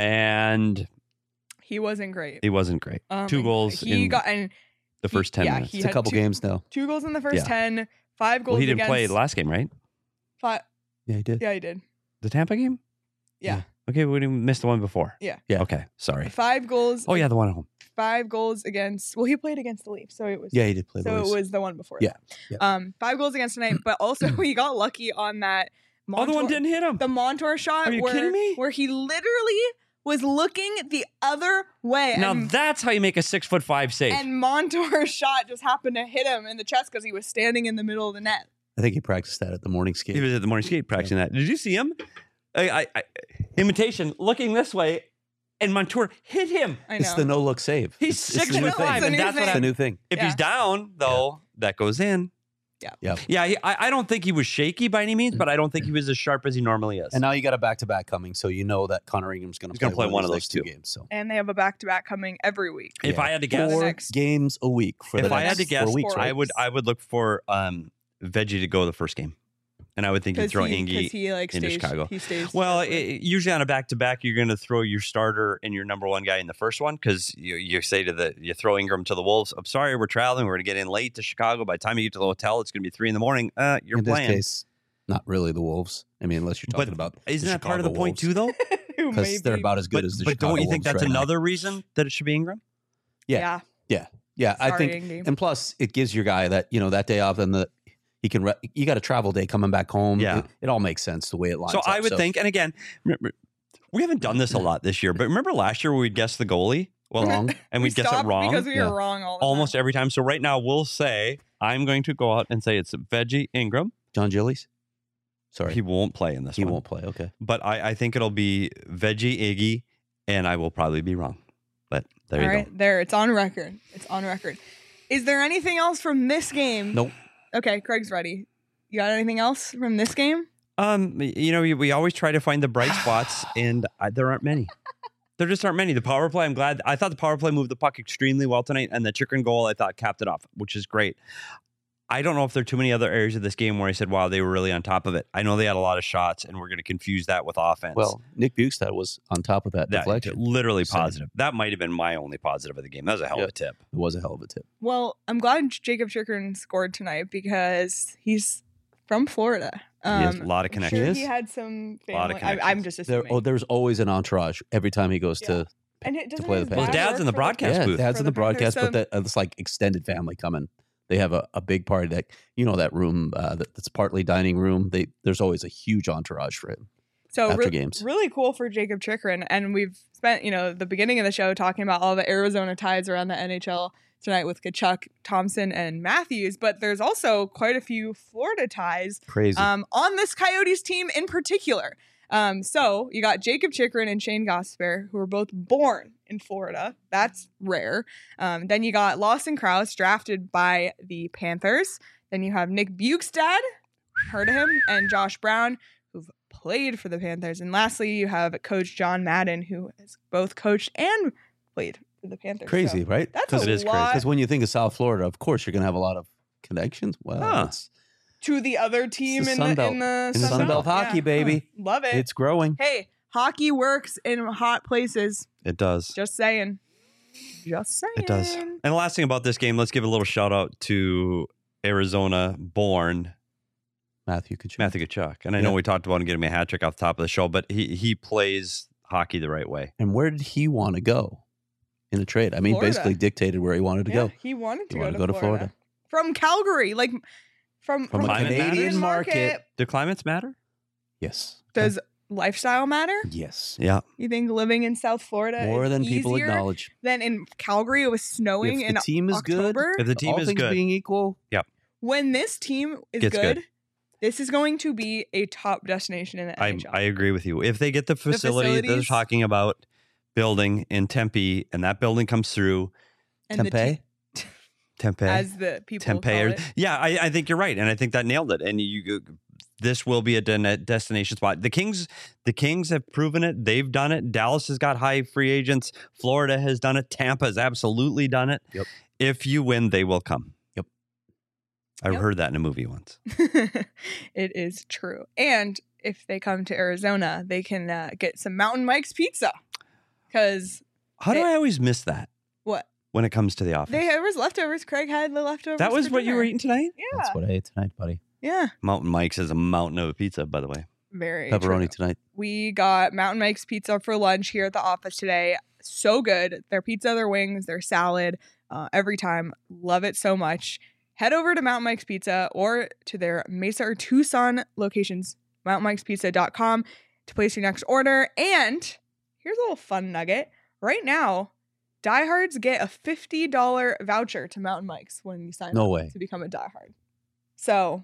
Speaker 3: and
Speaker 1: He wasn't great.
Speaker 3: he wasn't great.
Speaker 1: Um,
Speaker 3: Two goals
Speaker 1: He
Speaker 3: in
Speaker 1: got and
Speaker 3: the first ten
Speaker 1: yeah,
Speaker 3: minutes.
Speaker 1: he
Speaker 2: It's a
Speaker 1: had
Speaker 2: couple
Speaker 1: two-
Speaker 2: games now.
Speaker 1: two goals in the first
Speaker 3: Yeah.
Speaker 1: ten, five goals.
Speaker 3: Well, he didn't
Speaker 1: against
Speaker 3: play last game, right?
Speaker 1: Five,
Speaker 2: Yeah, he did.
Speaker 1: yeah, he did.
Speaker 3: The Tampa game?
Speaker 1: Yeah.
Speaker 3: Okay, we didn't miss the one before.
Speaker 1: Yeah.
Speaker 2: Yeah.
Speaker 3: Okay, sorry.
Speaker 1: Five goals.
Speaker 3: Oh yeah, the one at home.
Speaker 1: Five goals against. Well, he played against the Leafs, so it was.
Speaker 2: Yeah, he did play the
Speaker 1: So
Speaker 2: Leafs.
Speaker 1: it was the one before.
Speaker 2: Yeah,
Speaker 1: that.
Speaker 2: yeah.
Speaker 1: Um, five goals against tonight, but also he got lucky on that.
Speaker 3: Oh, the one
Speaker 1: Montour-
Speaker 3: didn't hit him.
Speaker 1: The Montour shot.
Speaker 3: Are you
Speaker 1: where,
Speaker 3: kidding me?
Speaker 1: Where he literally was looking the other way.
Speaker 3: Now
Speaker 1: and,
Speaker 3: that's how you make a six foot five save.
Speaker 1: and Montour's shot just happened to hit him in the chest because he was standing in the middle of the net.
Speaker 2: I think he practiced that at the morning skate.
Speaker 3: He was at the morning skate practicing that. Did you see him? I, I, I, imitation, looking this way, and Montour hit him.
Speaker 1: I know.
Speaker 2: It's the no look save.
Speaker 3: He's
Speaker 2: It's- it's
Speaker 3: six
Speaker 2: the new
Speaker 3: foot
Speaker 2: thing.
Speaker 3: five,
Speaker 1: It's a
Speaker 3: and
Speaker 1: new
Speaker 3: that's what
Speaker 1: thing.
Speaker 2: It's a
Speaker 3: I,
Speaker 2: new thing.
Speaker 3: if
Speaker 1: Yeah.
Speaker 3: he's down though, that goes in.
Speaker 1: Yeah.
Speaker 2: Yeah.
Speaker 3: Yeah, he, I, I don't think he was shaky by any means, but I don't think he was as sharp as he normally is.
Speaker 2: And now you got a back to back coming, so you know that Connor Ingram's going to
Speaker 3: He's gonna play one of
Speaker 2: these
Speaker 3: those
Speaker 2: next two
Speaker 3: two.
Speaker 2: games. So
Speaker 1: And they have a back to back coming every week.
Speaker 3: if
Speaker 2: Yeah.
Speaker 3: I had to guess,
Speaker 1: For the
Speaker 2: four
Speaker 1: next-
Speaker 2: games a week for
Speaker 3: if
Speaker 2: the
Speaker 3: I had
Speaker 2: next
Speaker 3: to guess,
Speaker 2: four weeks,
Speaker 1: four
Speaker 2: right?
Speaker 3: I would I would look for um, Veggie to go the first game, and I would think he'd
Speaker 1: Because
Speaker 3: throw
Speaker 1: he,
Speaker 3: Ingy
Speaker 1: 'cause he like
Speaker 3: into
Speaker 1: stays,
Speaker 3: Chicago.
Speaker 1: He stays.
Speaker 3: Well,
Speaker 1: separate.
Speaker 3: it, usually on a back to back, you're going to throw your starter and your number one guy in the first one because you, you say to the you throw Ingram to the Wolves. I'm sorry, we're traveling. We're going to get in late to Chicago. By the time you get to the hotel, it's going to be three in the morning. Uh, you're
Speaker 2: in
Speaker 3: playing.
Speaker 2: this case, not really the Wolves. I mean, unless you're talking
Speaker 3: But
Speaker 2: about
Speaker 3: Isn't
Speaker 2: the
Speaker 3: that part of the
Speaker 2: Chicago
Speaker 3: point
Speaker 2: Wolves,
Speaker 3: too, though?
Speaker 1: Who
Speaker 2: because they're
Speaker 1: maybe-
Speaker 2: about as good
Speaker 3: but
Speaker 2: as the
Speaker 3: but
Speaker 2: Chicago
Speaker 3: don't you think
Speaker 2: Wolves
Speaker 3: that's
Speaker 2: right now.
Speaker 3: another reason that it should be Ingram?
Speaker 2: Yeah.
Speaker 1: Yeah.
Speaker 2: Yeah, I
Speaker 1: Sorry,
Speaker 2: think,
Speaker 1: Ingy.
Speaker 2: and plus it gives your guy that you know that day off, and the he can. Re- you got a travel day coming back home.
Speaker 3: Yeah.
Speaker 2: it, it all makes sense the way it lines
Speaker 3: So
Speaker 2: up.
Speaker 3: I would think, and again, remember, we haven't done this a lot this year, but remember last year where we'd guess the goalie? Well,
Speaker 2: Wrong.
Speaker 3: and
Speaker 1: we
Speaker 3: we'd guess it
Speaker 1: stopped
Speaker 3: wrong.
Speaker 1: because we
Speaker 2: Yeah.
Speaker 1: were wrong all the
Speaker 3: Almost
Speaker 1: time.
Speaker 3: every time. So right now we'll say I'm going to go out and say it's Veggie Ingram.
Speaker 2: John Gillies. Sorry,
Speaker 3: He won't play in this
Speaker 2: he
Speaker 3: one.
Speaker 2: won't play. Okay,
Speaker 3: But I, I think it'll be Veggie Iggy, and I will probably be wrong. But there
Speaker 1: All
Speaker 3: you
Speaker 1: right,
Speaker 3: go.
Speaker 1: there. It's on record. It's on record. Is there anything else from this game?
Speaker 2: nope.
Speaker 1: Okay, Craig's ready. You got anything else from this game?
Speaker 3: Um, you know, we, we always try to find the bright spots, and I, there aren't many. There just aren't many. The power play, I'm glad. I thought the power play moved the puck extremely well tonight, and the chicken goal, I thought, capped it off, which is great. I don't know if there are too many other areas of this game where I said, wow, they were really on top of it. I know they had a lot of shots, and we're going to confuse that with offense.
Speaker 2: Well, Nick Bukestad was on top of that,
Speaker 3: that
Speaker 2: deflection.
Speaker 3: literally
Speaker 2: Same.
Speaker 3: positive. That might have been my only positive of the game. That was a hell
Speaker 2: Yeah.
Speaker 3: of a tip.
Speaker 2: It was a hell of a tip.
Speaker 1: Well, I'm glad Jacob Chikrin scored tonight because he's from Florida.
Speaker 3: He has
Speaker 1: Um,
Speaker 3: a lot of
Speaker 1: I'm sure
Speaker 3: connections.
Speaker 2: He
Speaker 1: he
Speaker 2: is?
Speaker 1: had some
Speaker 3: A lot of
Speaker 1: family. I, I'm
Speaker 3: connections.
Speaker 1: just
Speaker 2: There,
Speaker 1: assuming.
Speaker 2: oh, there's always an entourage every time he goes
Speaker 1: Yeah.
Speaker 2: to.
Speaker 1: and it, doesn't
Speaker 2: play
Speaker 1: his
Speaker 2: the
Speaker 3: Well, his
Speaker 2: Panthers.
Speaker 1: dad
Speaker 3: dad's
Speaker 1: work
Speaker 3: in the
Speaker 1: for
Speaker 3: broadcast
Speaker 2: Yeah,
Speaker 3: booth.
Speaker 2: dad's
Speaker 1: For
Speaker 2: in the
Speaker 1: the Panthers,
Speaker 2: broadcast,
Speaker 1: so-
Speaker 2: but that, uh, it's like extended family coming. They have a, a big party that you know that room uh, that, that's partly dining room. They there's always a huge entourage for him.
Speaker 1: So
Speaker 2: after
Speaker 1: re-
Speaker 2: games.
Speaker 1: really cool for Jacob Chikrin, and we've spent you know the beginning of the show talking about all the Arizona ties around the N H L tonight with Kachuk, Thompson, and Matthews. But there's also quite a few Florida ties
Speaker 2: Crazy.
Speaker 1: um, on this Coyotes team in particular. Um, so you got Jacob Chikrin and Shane Gosper, who were both born in Florida. That's rare. Um, then you got Lawson Krause, drafted by the Panthers. Then you have Nick Bukestad, heard of him, and Josh Brown, who've played for the Panthers. And lastly, you have Coach John Madden, who has both coached and played for the Panthers.
Speaker 2: Crazy,
Speaker 1: So
Speaker 2: right?
Speaker 1: that's
Speaker 3: It
Speaker 1: a
Speaker 3: is crazy.
Speaker 1: lot
Speaker 2: Because when you think of South Florida, of course you're going to have a lot of connections. Well,
Speaker 3: Huh.
Speaker 2: it's,
Speaker 1: to the other team
Speaker 2: the
Speaker 1: in,
Speaker 2: Sun
Speaker 1: the,
Speaker 2: Belt.
Speaker 1: in the
Speaker 2: In the Sun Belt hockey, baby.
Speaker 1: Love it.
Speaker 2: it's growing.
Speaker 1: Hey, hockey works in hot places.
Speaker 3: It does.
Speaker 1: Just saying. Just saying.
Speaker 3: It does. And the last thing about this game, let's give a little shout out to Arizona born
Speaker 2: Matthew Kachuk.
Speaker 3: Matthew Kachuk. And I know
Speaker 2: Yeah.
Speaker 3: we talked about him getting a hat trick off the top of the show, but he he plays hockey the right way.
Speaker 2: And where did he want to go in a trade? I mean,
Speaker 1: Florida.
Speaker 2: basically dictated where he wanted to
Speaker 1: Yeah,
Speaker 2: go.
Speaker 1: he wanted to,
Speaker 2: He
Speaker 1: go,
Speaker 2: wanted
Speaker 1: to
Speaker 2: to go to
Speaker 1: Florida.
Speaker 2: Florida.
Speaker 1: From Calgary. Like from,
Speaker 2: From
Speaker 3: a
Speaker 1: the
Speaker 3: Canadian
Speaker 2: market.
Speaker 3: Do climates matter?
Speaker 2: Yes.
Speaker 1: Does lifestyle matter?
Speaker 2: Yes.
Speaker 3: Yeah.
Speaker 1: You think living in South Florida
Speaker 2: More
Speaker 1: is
Speaker 2: than people
Speaker 1: easier
Speaker 2: acknowledge.
Speaker 1: than in Calgary? It was snowing
Speaker 2: If
Speaker 1: in
Speaker 2: the team is
Speaker 1: October.
Speaker 3: If the
Speaker 2: good,
Speaker 3: team
Speaker 2: all
Speaker 3: is
Speaker 2: things
Speaker 3: good,
Speaker 2: being equal,
Speaker 1: When this team is
Speaker 3: Gets
Speaker 1: good,
Speaker 3: good.
Speaker 1: this is going to be a top destination in the
Speaker 3: I,
Speaker 1: N H L.
Speaker 3: I agree with you. If they get the facility that they're
Speaker 1: facilities.
Speaker 3: talking about building in Tempe and that building comes through,
Speaker 1: And the
Speaker 2: Tempe.
Speaker 1: te-
Speaker 3: Tempe,
Speaker 1: as the people
Speaker 3: Tempe,
Speaker 1: call
Speaker 3: or-
Speaker 1: it.
Speaker 3: yeah, I, I think you're right, and I think that nailed it. And you, this will be a de- destination spot. The Kings, the Kings have proven it. They've done it. Dallas has got high free agents. Florida has done it. Tampa has absolutely done it.
Speaker 2: Yep.
Speaker 3: If you win, they will come.
Speaker 2: Yep.
Speaker 3: I
Speaker 1: Yep.
Speaker 3: heard that in a movie once.
Speaker 1: It is true. And if they come to Arizona, they can uh, get some Mountain Mike's pizza. Because
Speaker 3: How do
Speaker 1: They-
Speaker 3: I always miss that
Speaker 1: what?
Speaker 3: when it comes to the office?
Speaker 1: They, there was leftovers. Craig had the leftovers.
Speaker 3: that was
Speaker 1: for
Speaker 3: what you
Speaker 1: dinner.
Speaker 3: were eating tonight?
Speaker 1: Yeah.
Speaker 2: that's what I ate tonight, buddy.
Speaker 1: Yeah.
Speaker 3: Mountain Mike's is a mountain of a pizza, by the way.
Speaker 1: Very
Speaker 2: Pepperoni
Speaker 1: true.
Speaker 2: tonight.
Speaker 1: We got Mountain Mike's Pizza for lunch here at the office today. So good. Their pizza, their wings, their salad, uh, every time. Love it so much. Head over to Mountain Mike's Pizza or to their Mesa or Tucson locations, mountain mikes pizza dot com, to place your next order. And here's a little fun nugget. Right now, diehards get a fifty dollars voucher to Mountain Mike's when you sign
Speaker 2: No
Speaker 1: up
Speaker 2: way.
Speaker 1: to become a diehard. So,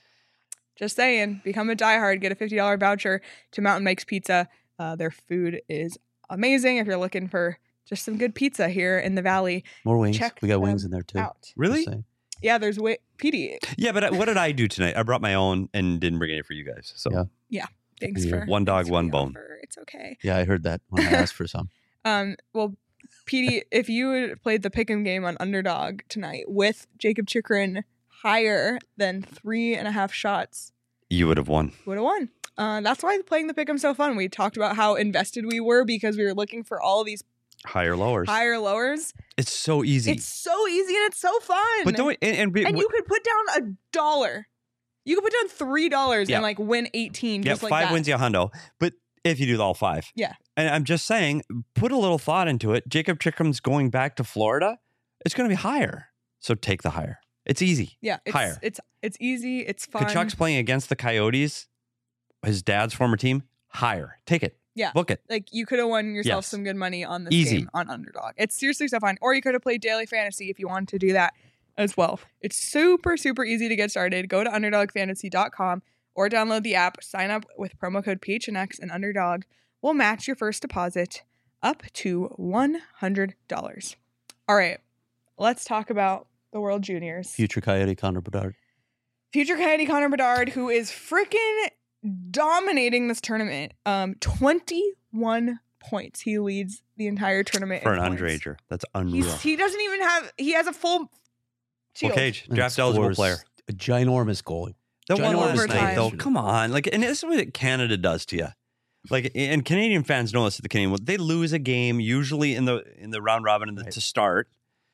Speaker 1: just saying, become a diehard, get a fifty dollars voucher to Mountain Mike's Pizza. Uh, their food is amazing. If you're looking for just some good pizza here in the Valley,
Speaker 2: More wings.
Speaker 1: check
Speaker 2: We got wings
Speaker 1: them
Speaker 2: in there too.
Speaker 1: out.
Speaker 3: Really?
Speaker 2: Just saying.
Speaker 1: Yeah, there's wa- P D.
Speaker 3: Yeah, but I- what did I do tonight? I brought my own and didn't bring any for you guys. So
Speaker 2: Yeah.
Speaker 1: Thanks
Speaker 2: Yeah.
Speaker 1: for
Speaker 3: One dog,
Speaker 1: thanks for
Speaker 3: one
Speaker 1: the
Speaker 3: bone.
Speaker 1: offer. It's okay.
Speaker 2: Yeah, I heard that when I asked for some.
Speaker 1: Um, well, P D, if you had played the pick'em game on Underdog tonight with Jacob Chikrin higher than three and a half shots,
Speaker 3: you would have won.
Speaker 1: would have won. Uh, that's why playing the pick'em so fun. We talked about how invested we were because we were looking for all these
Speaker 3: Higher lowers.
Speaker 1: higher lowers.
Speaker 3: It's so easy.
Speaker 1: It's so easy and it's so fun.
Speaker 3: but don't we- and, and, be-
Speaker 1: and you could put down a dollar. You could put down three dollars
Speaker 3: Yeah.
Speaker 1: and like win eighteen.
Speaker 3: yeah,
Speaker 1: just like
Speaker 3: five
Speaker 1: that.
Speaker 3: wins you a hundo. But if you do all five,
Speaker 1: Yeah.
Speaker 3: And I'm just saying, put a little thought into it. Jacob Chickham's going back to Florida. It's going to be higher, so take the higher. It's easy.
Speaker 1: Yeah, it's,
Speaker 3: higher.
Speaker 1: It's it's easy. It's fun.
Speaker 3: Kachuk's playing against the Coyotes, his dad's former team. Higher, take it.
Speaker 1: Yeah.
Speaker 3: book it.
Speaker 1: Like you could have won yourself
Speaker 3: Yes.
Speaker 1: some good money on this
Speaker 3: Easy.
Speaker 1: game on Underdog. It's seriously so fun. Or you could have played daily fantasy if you wanted to do that as well. It's super super easy to get started. Go to underdog fantasy dot com or download the app. Sign up with promo code P H N X and Underdog will match your first deposit up to one hundred dollars. All right, let's talk about the World Juniors.
Speaker 2: Future Coyote Connor Bedard.
Speaker 1: Future Coyote Connor Bedard, who is freaking dominating this tournament. Um, twenty-one points. He leads the entire tournament
Speaker 3: For
Speaker 1: in
Speaker 3: an
Speaker 1: points.
Speaker 3: underager. That's unreal.
Speaker 1: He's, he doesn't even have. He has a full
Speaker 3: Full
Speaker 1: shield.
Speaker 3: cage,
Speaker 2: And
Speaker 3: draft eligible
Speaker 2: scores
Speaker 3: player.
Speaker 2: A ginormous goal.
Speaker 3: The one
Speaker 2: Ginormous
Speaker 3: last night, though.
Speaker 1: overtime.
Speaker 3: Come on, like, and this is what Canada does to you. Like, and Canadian fans know this. At the Canadian, they lose a game usually in the in the round robin and the,
Speaker 2: Right.
Speaker 3: to start,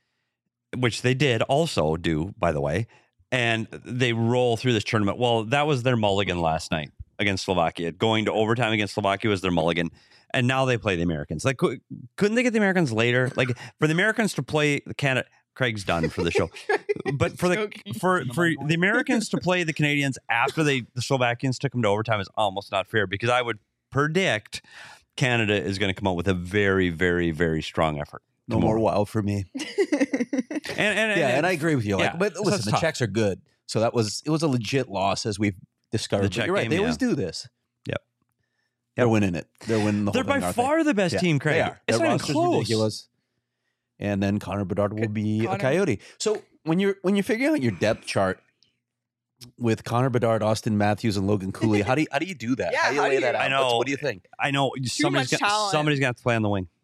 Speaker 3: which they did also do, by the way, and they roll through this tournament. Well, that was their mulligan last night against Slovakia. Going to overtime against Slovakia was their mulligan, and now they play the Americans. Like, cou- couldn't they get the Americans later? Like, for the Americans to play the Canada. Craig's done for the show, but for the
Speaker 1: Joking.
Speaker 3: for for the Americans to play the Canadians after they the Slovakians took them to overtime is almost not fair, because I would predict Canada is going to come out with a very very very strong effort.
Speaker 2: No
Speaker 3: tomorrow.
Speaker 2: more wow for me.
Speaker 3: And, and,
Speaker 2: Yeah, and I agree with you. Like,
Speaker 3: yeah,
Speaker 2: but
Speaker 3: so
Speaker 2: listen,
Speaker 3: it's
Speaker 2: the
Speaker 3: tough.
Speaker 2: Czechs are good. So that was it was a legit loss, as we've discovered.
Speaker 3: The
Speaker 2: But
Speaker 3: Czech
Speaker 2: you're right.
Speaker 3: game,
Speaker 2: They always
Speaker 3: yeah.
Speaker 2: do this.
Speaker 3: Yep.
Speaker 2: They're
Speaker 3: Yep.
Speaker 2: winning it. They're winning the
Speaker 3: They're
Speaker 2: whole thing.
Speaker 3: by
Speaker 2: aren't they?
Speaker 3: far the best
Speaker 2: Yeah,
Speaker 3: team, Craig.
Speaker 2: They are.
Speaker 3: It's
Speaker 2: Their
Speaker 3: not even
Speaker 2: roster's
Speaker 3: close.
Speaker 2: ridiculous. And then Connor Bedard will
Speaker 1: Could-
Speaker 2: be
Speaker 1: Connor-
Speaker 2: a Coyote. So when you're when you're figuring out your depth chart with Connor Bedard, Austin Matthews, and Logan Cooley, how do you how do you do that?
Speaker 1: Yeah,
Speaker 2: how do you
Speaker 1: how
Speaker 2: lay
Speaker 1: do
Speaker 2: that
Speaker 1: you-
Speaker 2: out?
Speaker 3: I know.
Speaker 2: What's- What do you think?
Speaker 3: I know somebody's
Speaker 1: much
Speaker 3: got
Speaker 1: talent.
Speaker 3: somebody's got to play on the wing.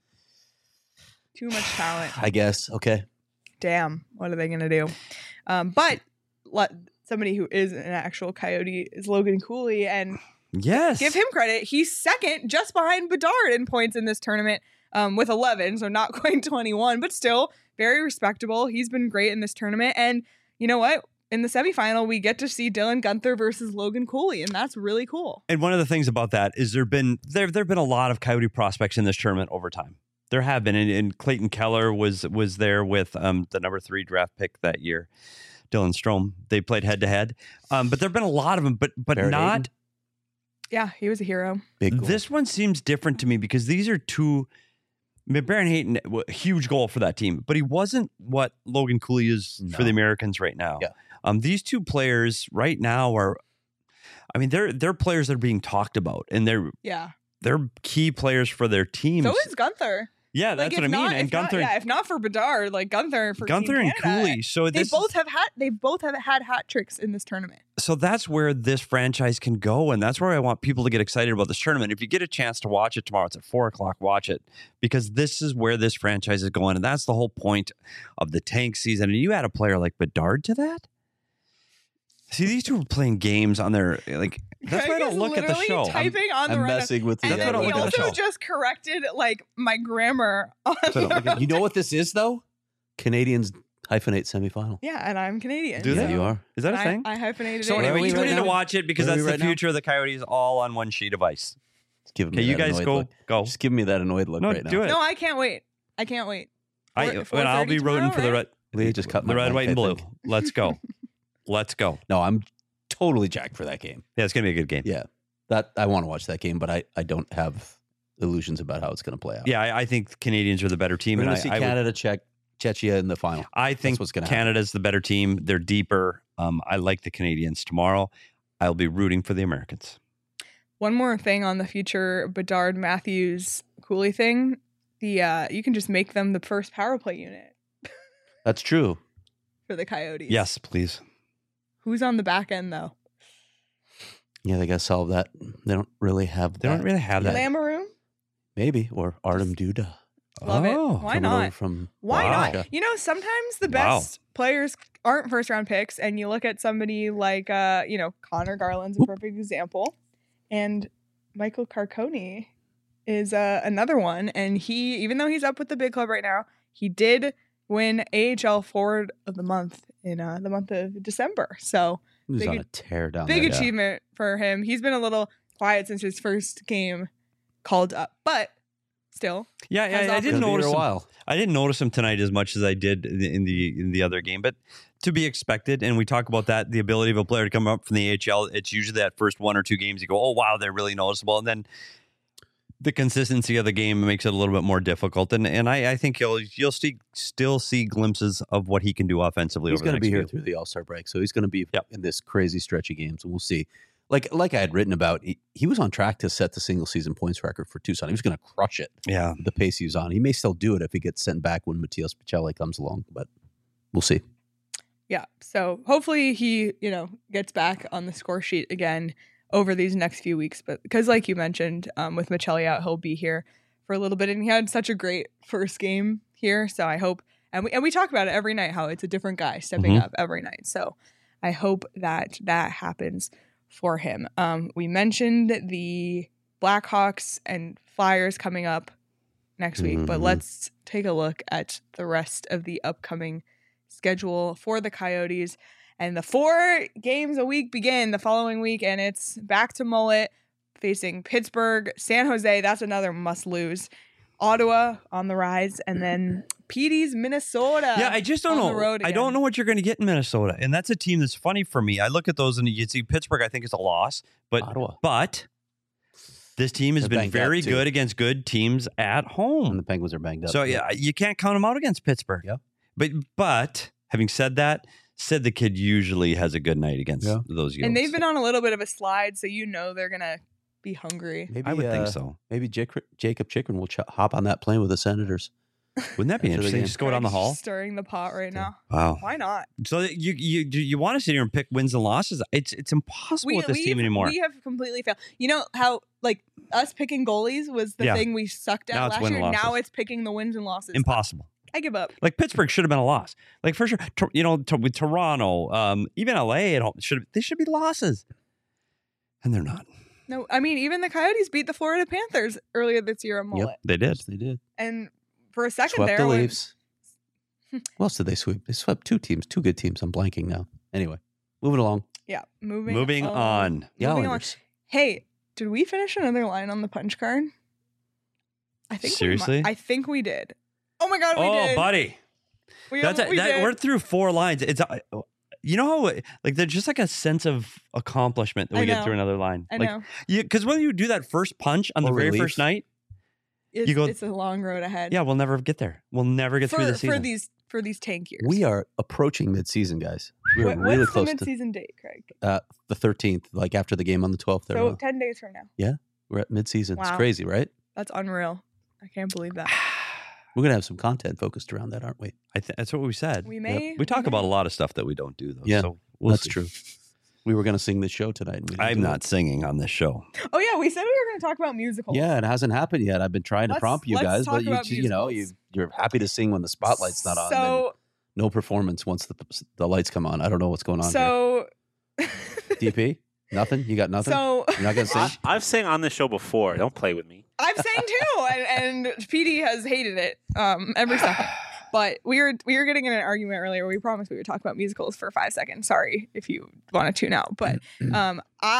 Speaker 1: Too much talent.
Speaker 2: I guess. Okay.
Speaker 1: Damn, what are they gonna do? Um, but let somebody who is an actual Coyote is Logan Cooley, and
Speaker 3: Yes,
Speaker 1: give him credit. He's second, just behind Bedard in points in this tournament, um, with eleven, so not quite twenty-one, but still very respectable. He's been great in this tournament, and you know what? In the semifinal, we get to see Dylan Gunther versus Logan Cooley, and that's really cool.
Speaker 3: And one of the things about that is there been there there've been a lot of Coyote prospects in this tournament over time. There have been, and, and Clayton Keller was was there with um, the number three draft pick that year, Dylan Strome. They played head to head, um, but there've been a lot of them, but but
Speaker 2: Barrett
Speaker 3: not.
Speaker 2: Hayton?
Speaker 1: Yeah, he was a hero.
Speaker 2: Big goal.
Speaker 3: This one seems different to me because these are two. I mean, Baron Hayton, w- huge goal for that team, but he wasn't what Logan Cooley is for
Speaker 2: No.
Speaker 3: the Americans right now.
Speaker 2: Yeah.
Speaker 3: Um, these two players right now are, I mean, they're they're players that are being talked about, and they're
Speaker 1: Yeah.
Speaker 3: they're key players for their teams.
Speaker 1: So is Gunther.
Speaker 3: yeah,
Speaker 1: Like,
Speaker 3: that's
Speaker 1: if
Speaker 3: what I mean.
Speaker 1: not-
Speaker 3: And
Speaker 1: if not-
Speaker 3: Gunther,
Speaker 1: yeah, if not for Bedard, like Gunther for Team
Speaker 3: Gunther and
Speaker 1: Canada,
Speaker 3: Cooley. So
Speaker 1: They
Speaker 3: this,
Speaker 1: both have had they both have had hat tricks in this tournament.
Speaker 3: so that's where this franchise can go, and that's where I want people to get excited about this tournament. If you get a chance to watch it tomorrow, it's at four o'clock. Watch it, because this is where this franchise is going, and that's the whole point of the tank season. And you add a player like Bedard to that. See, these two are playing games on their like. That's why I
Speaker 1: Craig
Speaker 3: don't
Speaker 1: is
Speaker 3: look at the
Speaker 1: literally
Speaker 3: show.
Speaker 1: Typing on the
Speaker 2: I'm
Speaker 1: run.
Speaker 2: messing with the.
Speaker 1: And
Speaker 3: That's
Speaker 1: then
Speaker 3: why I
Speaker 1: he
Speaker 3: don't look at the
Speaker 1: also
Speaker 3: show.
Speaker 1: just corrected like my grammar on
Speaker 3: So I don't look
Speaker 1: the-
Speaker 3: at-
Speaker 2: You know what this is though? Canadians Hyphenate semifinal.
Speaker 1: Yeah, and I'm Canadian.
Speaker 3: Do
Speaker 2: Yeah,
Speaker 3: they?
Speaker 1: so-
Speaker 2: you are.
Speaker 3: Is that a
Speaker 1: I,
Speaker 3: thing?
Speaker 1: I hyphenated
Speaker 3: So
Speaker 1: it.
Speaker 2: Where are
Speaker 3: anyway,
Speaker 2: we
Speaker 3: you
Speaker 2: right
Speaker 3: need to
Speaker 2: now?
Speaker 3: watch it because
Speaker 2: Where are
Speaker 3: that's
Speaker 2: we
Speaker 3: the
Speaker 2: right now?
Speaker 3: future of the Coyotes all on one sheet of ice.
Speaker 2: Just give me
Speaker 3: Okay, you
Speaker 2: that
Speaker 3: guys
Speaker 2: annoyed
Speaker 3: go.
Speaker 2: look.
Speaker 3: Go.
Speaker 2: Just give me that annoyed look
Speaker 3: No,
Speaker 2: right now.
Speaker 3: do it.
Speaker 1: No, I can't wait. I can't wait.
Speaker 3: I,
Speaker 1: Four-
Speaker 3: and I'll be
Speaker 1: 4:30
Speaker 3: rooting for the
Speaker 1: tomorrow,
Speaker 3: red.
Speaker 2: Lee just cut
Speaker 3: the
Speaker 2: my
Speaker 3: red,
Speaker 2: mic,
Speaker 3: white,
Speaker 2: I
Speaker 3: and blue.
Speaker 2: think.
Speaker 3: Let's go. Let's go.
Speaker 2: No, I'm totally jacked for that game.
Speaker 3: Yeah, it's gonna be a good game.
Speaker 2: Yeah, that I want to watch that game, but I, I don't have illusions about how it's going to play out.
Speaker 3: Yeah, I, I think Canadians are the better team,
Speaker 2: we're
Speaker 3: and
Speaker 2: going
Speaker 3: I,
Speaker 2: to see
Speaker 3: I, would-
Speaker 2: Canada check Czechia in the final.
Speaker 3: I think
Speaker 2: what's gonna happen.
Speaker 3: Canada's the better team. They're deeper. Um, I like the Canadians tomorrow. I'll be rooting for the Americans.
Speaker 1: One more thing on the future Bedard Matthews Cooley thing. The uh, you can just make them the first power play unit
Speaker 2: That's true.
Speaker 1: for the Coyotes.
Speaker 3: Yes, please.
Speaker 1: Who's on the back end though?
Speaker 2: Yeah, they got to solve that. They don't really have.
Speaker 3: They don't
Speaker 2: that.
Speaker 3: really have that.
Speaker 1: Lamoureux?
Speaker 2: Maybe or Artem Duda.
Speaker 1: Love it.
Speaker 3: Oh,
Speaker 1: Why
Speaker 2: coming
Speaker 1: not?
Speaker 2: over from
Speaker 1: Why
Speaker 3: Wow.
Speaker 1: not? You know, sometimes the
Speaker 3: Wow.
Speaker 1: best players aren't first round picks, and you look at somebody like, uh, you know, Connor Garland's a perfect example, and Michael Carcone is uh, another one. And he, even though he's up with the big club right now, he did win A H L Forward of the Month in uh, the month of December. So
Speaker 2: Who's
Speaker 1: Big-
Speaker 2: on a tear down
Speaker 1: big
Speaker 2: there. Yeah.
Speaker 1: achievement for him. He's been a little quiet since his first game called up, but still,
Speaker 3: Yeah,
Speaker 1: Has
Speaker 3: yeah I
Speaker 1: offered-
Speaker 3: didn't
Speaker 2: Gonna be here
Speaker 3: notice
Speaker 2: a
Speaker 3: him.
Speaker 2: while.
Speaker 3: I didn't notice him tonight as much as I did in the, in the in the other game, but to be expected. And we talk about that, the ability of a player to come up from the A H L. It's usually that first one or two games you go, oh wow, they're really noticeable, and then the consistency of the game makes it a little bit more difficult. And and I, I think you'll you'll see, still see glimpses of what he can do offensively.
Speaker 2: He's
Speaker 3: over the
Speaker 2: going to
Speaker 3: next
Speaker 2: be here
Speaker 3: few.
Speaker 2: through the All Star break, so he's going to be
Speaker 3: Yep.
Speaker 2: in this crazy stretch of games, and we'll see. Like like I had written about, he, he was on track to set the single season points record for Tucson. He was going to crush it.
Speaker 3: Yeah,
Speaker 2: The pace he was on, he may still do it if he gets sent back when Matias Pichelle comes along, but we'll see.
Speaker 1: yeah. So hopefully he, you know, gets back on the score sheet again over these next few weeks. But because, like you mentioned, um, with Michelli out, he'll be here for a little bit, and he had such a great first game here. So I hope, and we and we talk about it every night how it's a different guy stepping
Speaker 2: Mhm.
Speaker 1: up every night. So I hope that that happens for him. Um, we mentioned the Blackhawks and Flyers coming up next week, but
Speaker 2: Mhm.
Speaker 1: let's take a look at the rest of the upcoming schedule for the Coyotes. And the four games a week begin the following week, and it's back to Mullet facing Pittsburgh, San Jose. That's another must lose. Ottawa on the rise, and then P D's Minnesota.
Speaker 3: yeah. I just don't
Speaker 1: on the
Speaker 3: know.
Speaker 1: road
Speaker 3: I
Speaker 1: again.
Speaker 3: don't know what you're going to get in Minnesota, and that's a team that's funny for me. I look at those and you see Pittsburgh. I think is a loss, but
Speaker 2: Ottawa
Speaker 3: but this team has
Speaker 2: They're
Speaker 3: been
Speaker 2: banged up,
Speaker 3: very
Speaker 2: too.
Speaker 3: good against good teams at
Speaker 2: and
Speaker 3: home.
Speaker 2: the Penguins are banged up.
Speaker 3: So yeah, you can't count them out against Pittsburgh.
Speaker 2: Yeah.
Speaker 3: But but having said that, said the kid usually has a good night against
Speaker 2: Yeah.
Speaker 3: those Yotes.
Speaker 1: And they've been on a little bit of a slide, so you know they're gonna be hungry.
Speaker 2: Maybe,
Speaker 3: I would think
Speaker 2: uh,
Speaker 3: so.
Speaker 2: Maybe Jake, Jacob Chikrin will ch- hop on that plane with the Senators.
Speaker 3: Wouldn't that be
Speaker 2: After the
Speaker 3: interesting?
Speaker 2: game.
Speaker 3: Just go down the
Speaker 1: Craig's
Speaker 3: hall.
Speaker 1: stirring the pot right now.
Speaker 3: Wow.
Speaker 1: Why not?
Speaker 3: So you you you, you want to sit here and pick wins and losses? It's it's impossible with this team
Speaker 1: we've-
Speaker 3: anymore.
Speaker 1: We have completely failed. You know how like us picking goalies was the
Speaker 3: Yeah.
Speaker 1: thing we sucked at
Speaker 3: Now it's
Speaker 1: last
Speaker 3: win
Speaker 1: year.
Speaker 3: and
Speaker 1: Now
Speaker 3: losses.
Speaker 1: it's picking the wins and losses.
Speaker 3: Impossible.
Speaker 1: I give up.
Speaker 3: Like Pittsburgh should have been a loss. Like for sure, Tor- you know, to, with Toronto, um, even L A at home should they should be losses, and they're not.
Speaker 1: No, I mean even the Coyotes beat the Florida Panthers earlier this year on Mullet,
Speaker 3: They did.
Speaker 2: Yes, they did.
Speaker 1: and for a second
Speaker 2: Swept
Speaker 1: there,
Speaker 2: the
Speaker 1: when-
Speaker 2: Leafs. What else did they sweep? They swept two teams, two good teams. I'm blanking now. Anyway, moving along.
Speaker 1: yeah, moving
Speaker 3: Moving on.
Speaker 2: The
Speaker 1: Moving on.
Speaker 2: Islanders.
Speaker 1: Hey, did we finish another line on the punch card? I think
Speaker 3: Seriously?
Speaker 1: we might. I think we did. Oh my god, we
Speaker 3: Oh,
Speaker 1: did.
Speaker 3: buddy,
Speaker 1: We,
Speaker 3: that's a,
Speaker 1: we
Speaker 3: that,
Speaker 1: did.
Speaker 3: we're through four lines. It's uh, you know how like there's just like a sense of accomplishment that we
Speaker 1: I
Speaker 3: get
Speaker 1: know.
Speaker 3: through another line.
Speaker 1: I
Speaker 3: like,
Speaker 1: know.
Speaker 3: because when you do that first punch on the
Speaker 2: Or
Speaker 3: very
Speaker 2: relief.
Speaker 3: first night,
Speaker 1: It's,
Speaker 3: go-
Speaker 1: it's a long road ahead.
Speaker 3: yeah, we'll never get there. We'll never get
Speaker 1: for,
Speaker 3: through the
Speaker 1: for
Speaker 3: season.
Speaker 1: these for these tank years.
Speaker 2: We are approaching midseason, guys. We're
Speaker 1: What-
Speaker 2: really
Speaker 1: what's
Speaker 2: close
Speaker 1: the
Speaker 2: to
Speaker 1: mid-season date, Craig?
Speaker 2: uh, the thirteenth, like after the game on the twelfth. There,
Speaker 1: So
Speaker 2: now.
Speaker 1: ten days from now.
Speaker 2: We're at midseason. It's
Speaker 1: Wow.
Speaker 2: crazy, right?
Speaker 1: That's unreal. I can't believe that.
Speaker 2: We're gonna have some content focused around that, aren't we?
Speaker 3: I th- that's what we said.
Speaker 1: We may.
Speaker 3: We talk
Speaker 1: may.
Speaker 3: about a lot of stuff that we don't do, though.
Speaker 2: Yeah,
Speaker 3: so we'll
Speaker 2: That's
Speaker 3: see.
Speaker 2: true. We were gonna sing this show tonight. And we didn't
Speaker 3: I'm
Speaker 2: do
Speaker 3: not
Speaker 2: it.
Speaker 3: singing on this show.
Speaker 1: Oh yeah, we said we were going to talk about musicals.
Speaker 2: Yeah, it hasn't happened yet. I've been trying to
Speaker 1: Let's-
Speaker 2: prompt you
Speaker 1: let's
Speaker 2: guys,
Speaker 1: talk
Speaker 2: but you,
Speaker 1: about
Speaker 2: you know, you
Speaker 1: musicals.
Speaker 2: you're happy to sing when the spotlight's not on. then
Speaker 1: So
Speaker 2: no performance once the the lights come on. I don't know what's going on
Speaker 1: so
Speaker 2: here. D P, nothing. You got nothing.
Speaker 1: so
Speaker 2: You're not gonna sing.
Speaker 4: I, I've sang on this show before. Don't play with me.
Speaker 1: I've sang too, and, and P D has hated it um, every second. But we were we were getting in an argument earlier. We promised we would talk about musicals for five seconds. Sorry if you want to tune out, but um,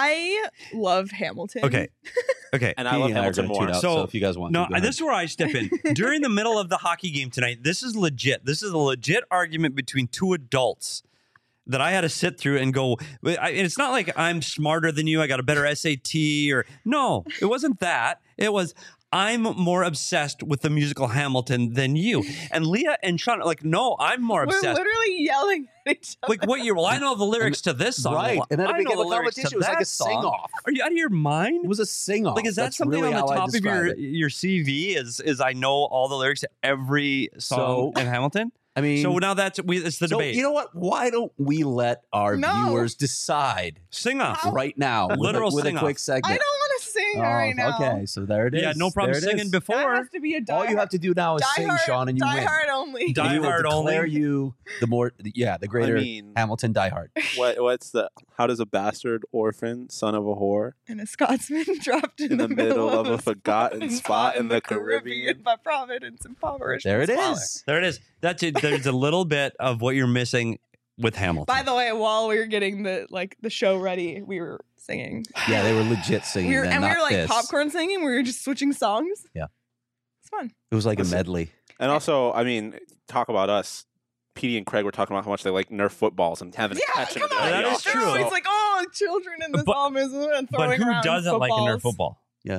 Speaker 1: I love Hamilton.
Speaker 3: Okay. Okay.
Speaker 4: And I
Speaker 2: Petey
Speaker 4: love
Speaker 2: and I are
Speaker 4: Hamilton
Speaker 2: gonna tune
Speaker 4: more.
Speaker 2: out,
Speaker 3: So,
Speaker 2: so if you guys want
Speaker 3: No,
Speaker 2: to, go ahead.
Speaker 3: this is where I step in. During the middle of the hockey game tonight, this is legit. This is a legit argument between two adults that I had to sit through and go. I, it's not like I'm smarter than you. I got a better S A T or no, it wasn't that. It was I'm more obsessed with the musical Hamilton than you. And Leah and Sean, like, no, I'm more
Speaker 1: We're
Speaker 3: obsessed.
Speaker 1: literally yelling at each other.
Speaker 3: Like, what year? Well, I know the lyrics to this song.
Speaker 2: right. And then
Speaker 3: I
Speaker 2: it
Speaker 3: know
Speaker 2: became
Speaker 3: the
Speaker 2: a
Speaker 3: lyrics to
Speaker 2: competition. It was like
Speaker 3: that
Speaker 2: a
Speaker 3: song.
Speaker 2: sing-off.
Speaker 3: Are you out of your mind?
Speaker 2: It was a sing-off.
Speaker 3: Like, is that
Speaker 2: That's
Speaker 3: something
Speaker 2: really
Speaker 3: on the
Speaker 2: how I
Speaker 3: top of
Speaker 2: describe
Speaker 3: your
Speaker 2: it.
Speaker 3: your C V? Is is I know all the lyrics to every song
Speaker 2: So-
Speaker 3: in Hamilton?
Speaker 2: I mean,
Speaker 3: So now that's we. It's the
Speaker 2: so
Speaker 3: debate.
Speaker 2: you know what? Why don't we let our
Speaker 1: No.
Speaker 2: viewers decide
Speaker 3: Sing off.
Speaker 1: How-
Speaker 2: right now with,
Speaker 3: Literal
Speaker 2: a, with a
Speaker 3: sing-off.
Speaker 2: quick segment?
Speaker 1: I don't want to sing
Speaker 2: Oh,
Speaker 1: right now.
Speaker 2: Okay, so there it is.
Speaker 3: Yeah, no problem
Speaker 2: There it
Speaker 3: singing
Speaker 2: is.
Speaker 1: That
Speaker 3: before.
Speaker 1: has to be a die
Speaker 2: All you have to do now is
Speaker 1: die
Speaker 2: sing,
Speaker 1: hard,
Speaker 2: Sean, and you
Speaker 1: die
Speaker 2: win.
Speaker 1: hard only.
Speaker 3: Die
Speaker 2: we will
Speaker 3: Hard
Speaker 2: declare
Speaker 3: only.
Speaker 2: you the more, yeah, the greater
Speaker 5: I mean,
Speaker 2: Hamilton Die Hard.
Speaker 5: what what's the? How does a bastard orphan, son of a whore,
Speaker 1: And a Scotsman dropped in,
Speaker 5: in the middle of a forgotten spot in the Caribbean?
Speaker 1: by Providence impoverished.
Speaker 2: There it
Speaker 1: and smaller.
Speaker 2: is.
Speaker 3: There it is. That's it. There's a little bit of what you're missing with Hamilton.
Speaker 1: By the way, while we were getting the like the show ready, we were singing.
Speaker 2: Yeah, they were legit singing.
Speaker 1: We were,
Speaker 2: then,
Speaker 1: and we
Speaker 2: not
Speaker 1: were like
Speaker 2: this.
Speaker 1: popcorn singing. We were just switching songs.
Speaker 2: Yeah.
Speaker 1: It's fun.
Speaker 2: It was like a
Speaker 5: Listen.
Speaker 2: medley.
Speaker 5: And also, I mean, talking about us, Petey and Craig were talking about how much they like Nerf footballs and having
Speaker 1: Yeah,
Speaker 5: a catch
Speaker 1: come
Speaker 5: in
Speaker 1: on.
Speaker 3: That
Speaker 5: the
Speaker 3: is
Speaker 1: it's
Speaker 3: true.
Speaker 1: true.
Speaker 3: So-
Speaker 1: It's like, oh, children in this
Speaker 3: But-
Speaker 1: album is and
Speaker 3: but
Speaker 1: throwing
Speaker 3: who
Speaker 1: around
Speaker 3: doesn't like a Nerf
Speaker 1: footballs.
Speaker 3: football?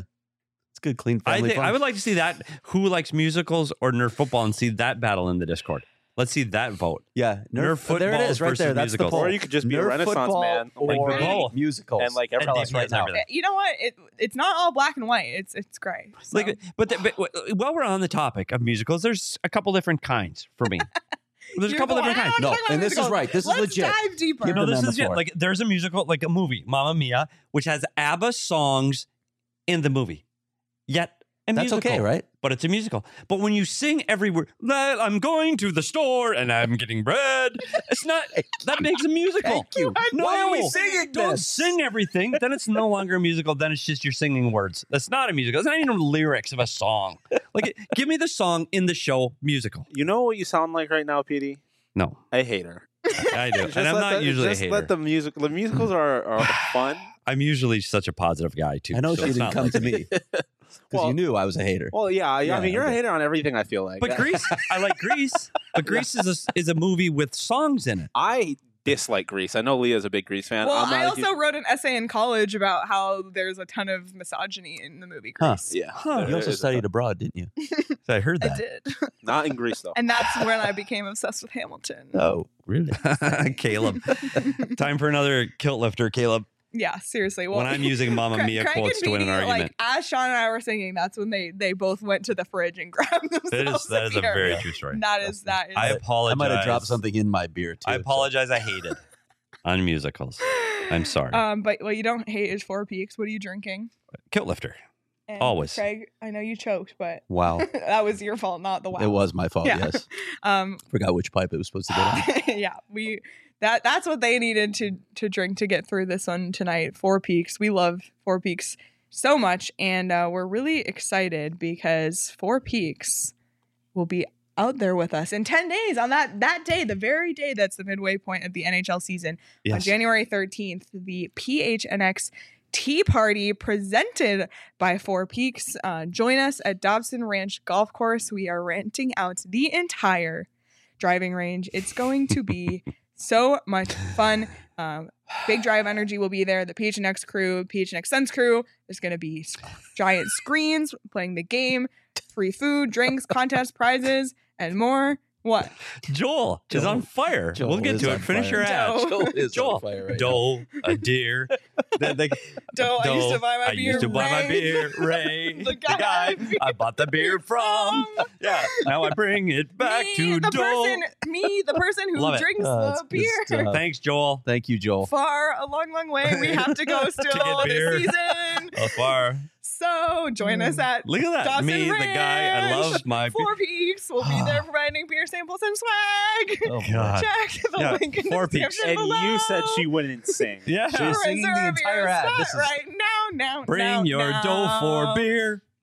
Speaker 2: It's good, clean
Speaker 3: I
Speaker 2: family
Speaker 3: think
Speaker 2: fun.
Speaker 3: I would like to see that. Who likes musicals or Nerf football, and see that battle in the Discord. Let's see that vote.
Speaker 2: yeah,
Speaker 3: Nerf
Speaker 2: Nerf, there it
Speaker 3: footballs
Speaker 2: is, right
Speaker 3: versus
Speaker 2: there. That's
Speaker 3: musicals.
Speaker 2: the poll.
Speaker 5: Or you could just be a
Speaker 2: Nerf
Speaker 5: Renaissance
Speaker 2: football
Speaker 5: man,
Speaker 3: like
Speaker 2: or
Speaker 3: both.
Speaker 2: musicals.
Speaker 5: and like
Speaker 3: And
Speaker 5: everyone
Speaker 3: D
Speaker 5: else
Speaker 3: V Ds
Speaker 5: right
Speaker 3: and
Speaker 5: now.
Speaker 3: everything.
Speaker 1: You know what? It it's not all black and white. It's it's gray. So.
Speaker 3: Like, but, the, but while we're on the topic of musicals, there's a couple different kinds for me. There's a
Speaker 1: You're
Speaker 3: couple
Speaker 1: going,
Speaker 3: different
Speaker 1: "I
Speaker 3: kinds.
Speaker 1: don't
Speaker 2: No,
Speaker 1: talk about
Speaker 2: and this is
Speaker 1: musicals."
Speaker 2: right. This is
Speaker 1: Let's
Speaker 2: legit.
Speaker 1: dive deeper.
Speaker 2: Give
Speaker 3: No,
Speaker 2: them
Speaker 3: this
Speaker 2: on
Speaker 3: is
Speaker 2: the
Speaker 3: it.
Speaker 2: floor.
Speaker 3: Like, there's a musical, like a movie, Mamma Mia, which has ABBA songs in the movie. Yet a
Speaker 2: That's
Speaker 3: musical.
Speaker 2: okay, right?
Speaker 3: But it's a musical. But when you sing every word, "Well, I'm going to the store and I'm getting bread," it's not. That makes a musical.
Speaker 2: Thank you.
Speaker 3: No,
Speaker 2: Why are we singing
Speaker 3: Don't
Speaker 2: this?
Speaker 3: sing everything. Then it's no longer a musical. Then it's just you're singing words. That's not a musical. It's not even lyrics of a song. Like, give me the song in the show musical.
Speaker 5: You know what you sound like right now, Petey?
Speaker 3: No,
Speaker 5: A hater.
Speaker 3: I do,
Speaker 5: Just
Speaker 3: and I'm
Speaker 5: let
Speaker 3: not
Speaker 5: the,
Speaker 3: usually a
Speaker 5: just
Speaker 3: hater.
Speaker 5: let the music. The musicals are, are fun.
Speaker 3: I'm usually such a positive guy too.
Speaker 2: I know
Speaker 3: so
Speaker 2: she
Speaker 3: it's
Speaker 2: didn't
Speaker 3: not
Speaker 2: come
Speaker 3: like-
Speaker 2: to me because
Speaker 5: Well-
Speaker 2: you knew I was a hater.
Speaker 5: Well, yeah, yeah. I
Speaker 2: Yeah,
Speaker 5: mean, you're a
Speaker 2: okay.
Speaker 5: hater on everything. I feel like,
Speaker 3: But Grease, I like Grease. But Grease is a, is a movie with songs in it.
Speaker 5: I dislike Grease. I know Leah's a big Grease fan.
Speaker 1: Well,
Speaker 5: I'm not
Speaker 1: I
Speaker 5: a
Speaker 1: also
Speaker 5: huge-
Speaker 1: wrote an essay in college about how there's a ton of misogyny in the movie
Speaker 2: Huh.
Speaker 1: Grease.
Speaker 5: yeah.
Speaker 3: Huh.
Speaker 5: there
Speaker 2: You also
Speaker 5: is a
Speaker 2: studied
Speaker 5: ton.
Speaker 2: abroad, didn't you?
Speaker 3: I heard
Speaker 1: I
Speaker 3: that.
Speaker 1: did.
Speaker 5: Not in Grease though.
Speaker 1: And that's when I became obsessed with Hamilton.
Speaker 2: Oh, really?
Speaker 3: Caleb. Time for another kilt lifter, Caleb.
Speaker 1: Yeah, seriously. Well,
Speaker 3: when I'm using Mamma
Speaker 1: Craig-
Speaker 3: Mia
Speaker 1: Craig
Speaker 3: quotes
Speaker 1: and
Speaker 3: to win an
Speaker 1: Beanie,
Speaker 3: argument.
Speaker 1: Like, as Sean and I were singing, that's when they they both went to the fridge and grabbed themselves.
Speaker 3: that is that is a
Speaker 1: beer.
Speaker 3: very true story.
Speaker 1: That is that is.
Speaker 3: I apologize.
Speaker 2: I might have dropped something in my beer too.
Speaker 3: I
Speaker 2: so-
Speaker 3: apologize. I hated on musicals. I'm sorry.
Speaker 1: Um, but what you don't hate is Four Peaks. What are you drinking?
Speaker 3: Kilt lifter.
Speaker 1: And
Speaker 3: Always.
Speaker 1: Craig, I know you choked, but
Speaker 2: Wow,
Speaker 1: that was your fault, not the wow.
Speaker 2: it was my fault.
Speaker 1: Yeah.
Speaker 2: Yes,
Speaker 1: Um,
Speaker 2: forgot which pipe it was supposed to get on.
Speaker 1: yeah, we that that's what they needed to to drink to get through this one tonight. Four Peaks. We love Four Peaks so much, and uh, we're really excited because Four Peaks will be out there with us in ten days on that that day, the very day that's the midway point of the N H L season. On
Speaker 3: Yes.
Speaker 1: January thirteenth, the P H N X Tea Party presented by Four Peaks. Uh, join us at Dobson Ranch Golf Course. We are renting out the entire driving range. It's going to be so much fun. Um, Big Drive Energy will be there. The P H N X crew, P H N X Suns crew. There's going to be s- giant screens playing the game, free food, drinks, contests, prizes, and more. What?
Speaker 3: Joel, is
Speaker 2: Joel-
Speaker 3: on fire.
Speaker 2: Joel
Speaker 3: we'll get
Speaker 2: is
Speaker 3: to
Speaker 2: on
Speaker 3: it. Finish
Speaker 2: fire.
Speaker 3: your ad.
Speaker 1: Joel.
Speaker 2: Joel is
Speaker 3: Joel.
Speaker 2: on fire right
Speaker 3: Doe, a deer. The- the-
Speaker 1: Doe, I used to buy my
Speaker 3: I
Speaker 1: beer.
Speaker 3: used to buy my
Speaker 1: Ray.
Speaker 3: beer. Ray,
Speaker 1: The guy I
Speaker 3: I bought the beer from.
Speaker 1: From.
Speaker 3: Yeah, now I bring it back
Speaker 1: me,
Speaker 3: to
Speaker 1: the
Speaker 3: Doe.
Speaker 1: person, me, the person who
Speaker 3: Love it.
Speaker 1: drinks
Speaker 2: Oh,
Speaker 1: the
Speaker 2: that's good
Speaker 1: beer.
Speaker 2: stuff.
Speaker 3: Thanks, Joel.
Speaker 2: Thank you, Joel.
Speaker 1: Far a long, long way we have to go still
Speaker 3: get beer.
Speaker 1: this season.
Speaker 3: So far.
Speaker 1: So join us at
Speaker 3: Look at that.
Speaker 1: Dawson
Speaker 3: Me, the guy. I
Speaker 1: Ranch.
Speaker 3: love my beer.
Speaker 1: Four Peaks. We'll be there providing beer samples and swag.
Speaker 2: Oh, boy.
Speaker 3: God.
Speaker 1: Check the
Speaker 3: Yeah,
Speaker 1: link in the
Speaker 3: Four Peaks.
Speaker 1: description
Speaker 5: And
Speaker 1: below.
Speaker 5: you said she wouldn't sing.
Speaker 3: Yeah.
Speaker 2: She was singing the
Speaker 1: Reserve
Speaker 2: entire
Speaker 1: your
Speaker 2: ad.
Speaker 1: spot
Speaker 2: This is-
Speaker 1: right now, now,
Speaker 3: Bring
Speaker 1: now,
Speaker 3: your
Speaker 1: now.
Speaker 3: dough for beer.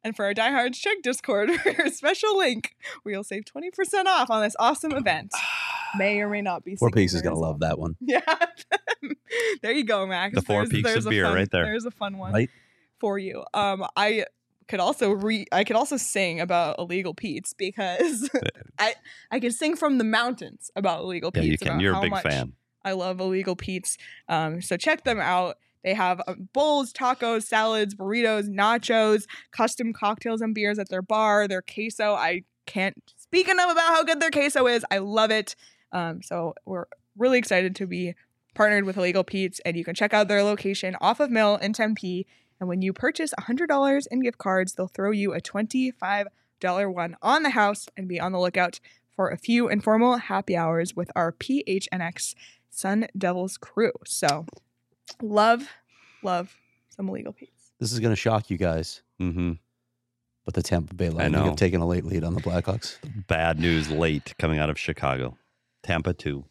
Speaker 1: And for our diehards, check Discord for a special link where you'll save twenty percent off on this awesome event. May or may not be.
Speaker 2: Four
Speaker 1: singing
Speaker 2: Peaks is
Speaker 1: there
Speaker 2: gonna
Speaker 1: as well.
Speaker 2: love that one,
Speaker 1: Yeah. There you go, Max.
Speaker 3: The Four
Speaker 1: There's-
Speaker 3: Peaks of
Speaker 1: there's a
Speaker 3: beer
Speaker 1: fun-
Speaker 3: right there.
Speaker 1: There's a fun one
Speaker 2: right?
Speaker 1: for you. Um, I could also re I could also sing about Illegal Pete's because I I could sing from the mountains about Illegal
Speaker 3: Yeah,
Speaker 1: Pete's.
Speaker 3: you can.
Speaker 1: about
Speaker 3: You're a
Speaker 1: how
Speaker 3: big
Speaker 1: much
Speaker 3: fan.
Speaker 1: I love Illegal Pete's. Um, so check them out. They have uh, bowls, tacos, salads, burritos, nachos, custom cocktails and beers at their bar. Their queso, I can't speak enough about how good their queso is. I love it. Um, so we're really excited to be partnered with Illegal Pete's, and you can check out their location off of Mill in Tempe. And when you purchase one hundred dollars in gift cards, they'll throw you a twenty-five dollars one on the house, and be on the lookout for a few informal happy hours with our P H N X Sun Devils crew. So love, love some Illegal Pete's.
Speaker 2: This is gonna shock you guys,
Speaker 3: Mm-hmm.
Speaker 2: but the Tampa Bay Lightning
Speaker 3: know.
Speaker 2: have taken a late lead on the Blackhawks.
Speaker 3: Bad news late coming out of Chicago. Tampa two.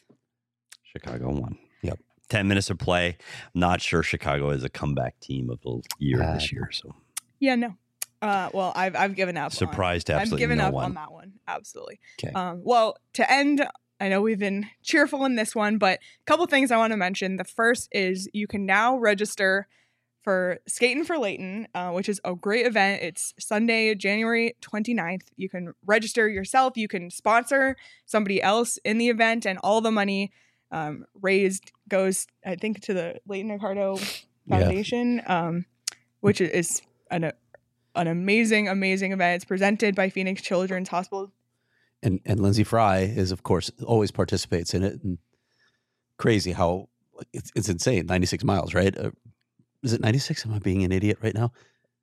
Speaker 3: Chicago one.
Speaker 2: Yep.
Speaker 3: Ten minutes of play. Not sure Chicago is a comeback team of the year
Speaker 2: Uh,
Speaker 3: this year. So
Speaker 1: Yeah, no. Uh, well, I've I've given up. on-
Speaker 3: surprised to
Speaker 1: I've
Speaker 3: absolutely
Speaker 1: given
Speaker 3: no
Speaker 1: up
Speaker 3: one.
Speaker 1: on that one. Absolutely.
Speaker 2: Okay.
Speaker 1: Um, well, to end, I know we've been cheerful in this one, but a couple things I want to mention. The first is you can now register for Skating for Layton, uh, which is a great event. It's Sunday, January twenty-ninth. You can register yourself. You can sponsor somebody else in the event, and all the money um, raised goes, I think, to the Layton Ricardo
Speaker 2: Yeah.
Speaker 1: Foundation, um, which is an an amazing, amazing event. It's presented by Phoenix Children's Hospital.
Speaker 2: And and Lindsay Fry is, of course, always participates in it. And crazy how it's it's insane. ninety-six miles, right? Uh, is it ninety-six? Am I being an idiot right now?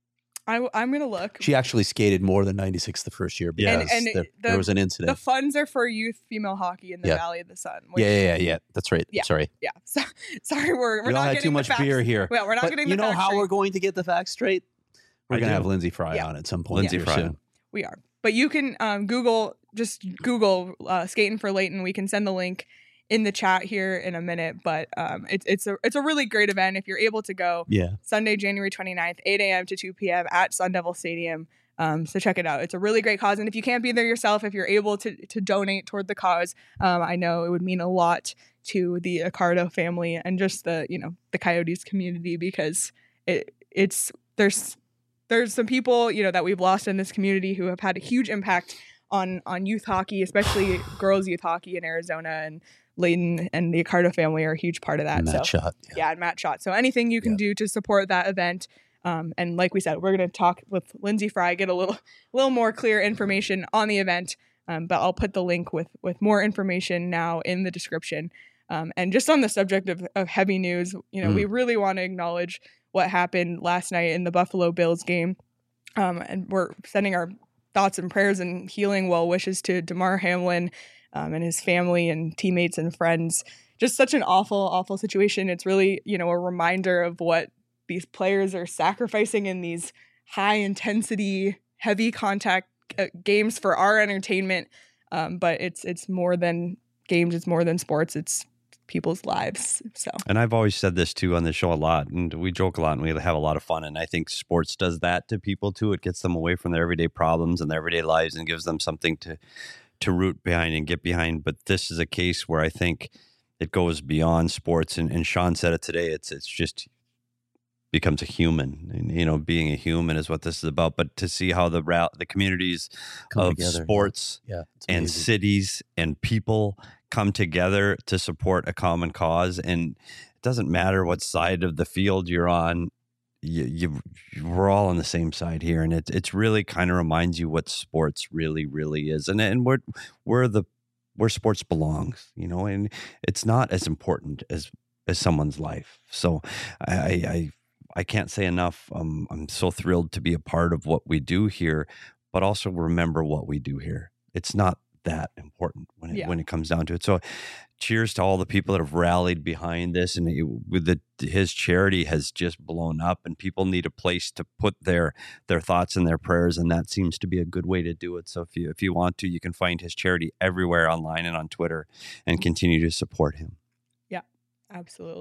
Speaker 1: I, I'm gonna look.
Speaker 2: She actually skated more than ninety-six the first year
Speaker 3: Yeah.
Speaker 2: because
Speaker 1: And- and
Speaker 2: there,
Speaker 1: the-
Speaker 2: there was an
Speaker 1: The
Speaker 2: incident.
Speaker 1: funds are for youth female hockey in the
Speaker 2: Yeah.
Speaker 1: Valley of the Sun. which-
Speaker 2: yeah, yeah, yeah, yeah. That's right.
Speaker 1: Yeah.
Speaker 2: Sorry.
Speaker 1: yeah. So, sorry, we're we're
Speaker 2: We all
Speaker 1: not
Speaker 2: had
Speaker 1: getting
Speaker 2: too
Speaker 1: the
Speaker 2: much
Speaker 1: facts-
Speaker 2: beer here.
Speaker 1: Well, we're not
Speaker 2: But
Speaker 1: getting
Speaker 2: you
Speaker 1: the
Speaker 2: know
Speaker 1: facts
Speaker 2: how
Speaker 1: straight.
Speaker 2: we're going to get the facts straight? We're
Speaker 3: I
Speaker 2: going to
Speaker 3: do.
Speaker 2: have Lindsay Fry
Speaker 1: Yeah.
Speaker 2: on at some point
Speaker 3: Lindsay
Speaker 2: here
Speaker 3: Fry.
Speaker 2: soon.
Speaker 1: We are, but you can um, Google just Google uh, Skating for Layton. We can send the link in the chat here in a minute. But um, it's it's a it's a really great event if you're able to go.
Speaker 2: Yeah.
Speaker 1: Sunday, January twenty-ninth, eight a.m. to two p.m. at Sun Devil Stadium. Um, so check it out. It's a really great cause. And if you can't be there yourself, if you're able to to donate toward the cause, um, I know it would mean a lot to the Accardo family and just the, you know, the Coyotes community, because it it's there's there's some people, you know, that we've lost in this community who have had a huge impact on on youth hockey, especially girls youth hockey in Arizona, and Layton and the Accardo family are a huge part of that.
Speaker 2: Matt
Speaker 1: so
Speaker 2: Shot. Yeah.
Speaker 1: yeah, and Matt Shot. So anything you can
Speaker 2: Yeah.
Speaker 1: do to support that event. Um, and like we said, we're going to talk with Lindsay Fry, get a little, little more clear information on the event. Um, but I'll put the link with with more information now in the description. Um, and just on the subject of, of heavy news, you know,
Speaker 2: Mm.
Speaker 1: we really want to acknowledge what happened last night in the Buffalo Bills game. Um, and we're sending our thoughts and prayers and healing well wishes to Damar Hamlin um, and his family and teammates and friends. Just such an awful, awful situation. It's really, you know, a reminder of what these players are sacrificing in these high intensity, heavy contact uh, games for our entertainment. Um, but it's it's more than games. It's more than sports. It's people's lives. So
Speaker 3: And I've always said this too on the show a lot, and we joke a lot and we have a lot of fun. And I think sports does that to people too. It gets them away from their everyday problems and their everyday lives and gives them something to to root behind and get behind. But this is a case where I think it goes beyond sports. And, and Sean said it today. It's it's just becomes a human, and you know, being a human is what this is about. But to see how the route, the communities
Speaker 2: Come
Speaker 3: of
Speaker 2: together.
Speaker 3: sports
Speaker 2: Yeah. It's
Speaker 3: and
Speaker 2: amazing.
Speaker 3: cities and people come together to support a common cause, and it doesn't matter what side of the field you're on. You, you we're all on the same side here, and it it's really kind of reminds you what sports really really is, and and where where the where sports belongs, you know, and it's not as important as as someone's life. So I I I can't say enough. Um, I'm so thrilled to be a part of what we do here, but also remember what we do here. It's not that important when it
Speaker 1: Yeah.
Speaker 3: when it comes down to it. So cheers to all the people that have rallied behind this, and it, with the his charity has just blown up, and people need a place to put their their thoughts and their prayers, and that seems to be a good way to do it. So if you if you want to, you can find his charity everywhere online and on Twitter, and continue to support him.
Speaker 1: absolutely.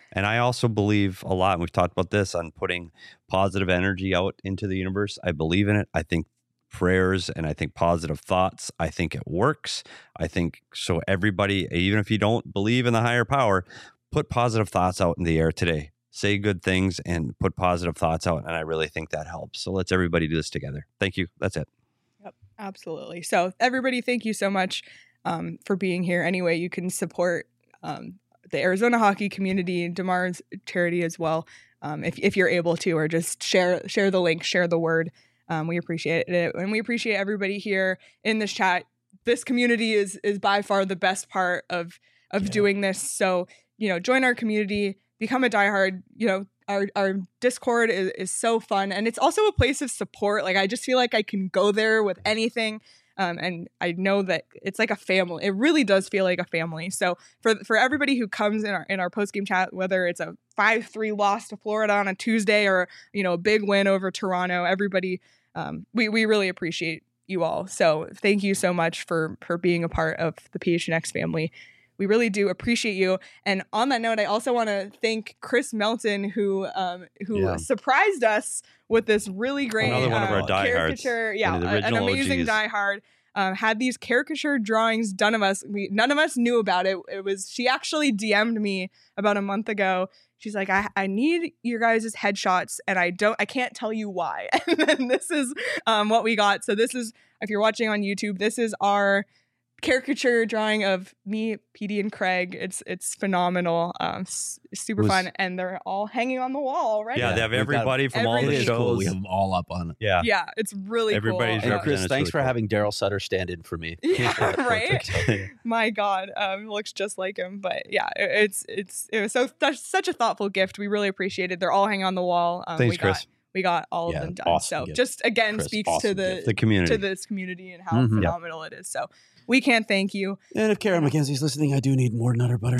Speaker 3: And I also believe a lot, and we've talked about this, on putting positive energy out into the universe. I believe in it. I think prayers and I think positive thoughts, I think it works. I think so everybody, even if you don't believe in the higher power, put positive thoughts out in the air today. Say good things and put positive thoughts out. And I really think that helps. So let's everybody do this together. Thank you. That's it.
Speaker 1: Yep, absolutely. So everybody, thank you so much um, for being here. Anyway, you can support um, the Arizona hockey community, DeMar's charity as well, um, if if you're able to, or just share share the link, share the word. Um, we appreciate it, and we appreciate everybody here in this chat. This community is is by far the best part of of
Speaker 2: Yeah.
Speaker 1: doing this. So you know, join our community, become a diehard. You know, our our Discord is is so fun, and it's also a place of support. Like I just feel like I can go there with anything. Um, and I know that it's like a family. It really does feel like a family. So for for everybody who comes in our in our post game chat, whether it's a five three loss to Florida on a Tuesday or you know a big win over Toronto, everybody, um, we we really appreciate you all. So thank you so much for for being a part of the P H N X family. We really do appreciate you. And on that note, I also want to thank Chris Melton, who um, who
Speaker 2: Yeah.
Speaker 1: surprised us with this really great
Speaker 3: Another one of our
Speaker 1: uh,
Speaker 3: diehards.
Speaker 1: caricature. Yeah,
Speaker 3: One of the
Speaker 1: a- an
Speaker 3: original
Speaker 1: amazing
Speaker 3: O Gs.
Speaker 1: diehard. Um, had these caricature drawings done of us. We none of us knew about it. It was she actually D M'd me about a month ago. She's like, I, I need your guys' headshots, and I don't, I can't tell you why. And then this is um, what we got. So this is, if you're watching on YouTube, this is our caricature drawing of me, Petey, and Craig. It's it's phenomenal, um, s- super
Speaker 2: Was-
Speaker 1: fun, and they're all hanging on the wall already.
Speaker 3: Yeah, they have
Speaker 2: we've got-
Speaker 3: everybody from all
Speaker 2: It
Speaker 3: the
Speaker 1: Everything.
Speaker 2: is
Speaker 3: shows.
Speaker 2: cool. We have them all up on it.
Speaker 3: Yeah.
Speaker 1: Yeah, it's really
Speaker 3: Everybody's
Speaker 1: cool.
Speaker 2: And
Speaker 1: Uh,
Speaker 2: Chris,
Speaker 3: represented,
Speaker 2: thanks
Speaker 3: really
Speaker 2: for
Speaker 3: cool.
Speaker 2: having Daryl Sutter stand in for me.
Speaker 1: Yeah, right?
Speaker 2: Perfect.
Speaker 1: My God, um, it looks just like him. But yeah, it, it's it's it was so such, such a thoughtful gift. We really appreciate it. They're all hanging on the wall. Um,
Speaker 3: Thanks,
Speaker 1: we
Speaker 3: Chris.
Speaker 1: Got, we got all
Speaker 2: Yeah,
Speaker 1: of them done.
Speaker 2: awesome
Speaker 1: so
Speaker 2: gift.
Speaker 1: just again
Speaker 2: Chris,
Speaker 1: speaks to
Speaker 2: awesome
Speaker 1: the
Speaker 2: gift.
Speaker 3: The community.
Speaker 1: to this community and how
Speaker 2: Mhm.
Speaker 1: phenomenal it is. So we can't thank you.
Speaker 2: And if Karen McKenzie's listening, I do need more Nutter Butter.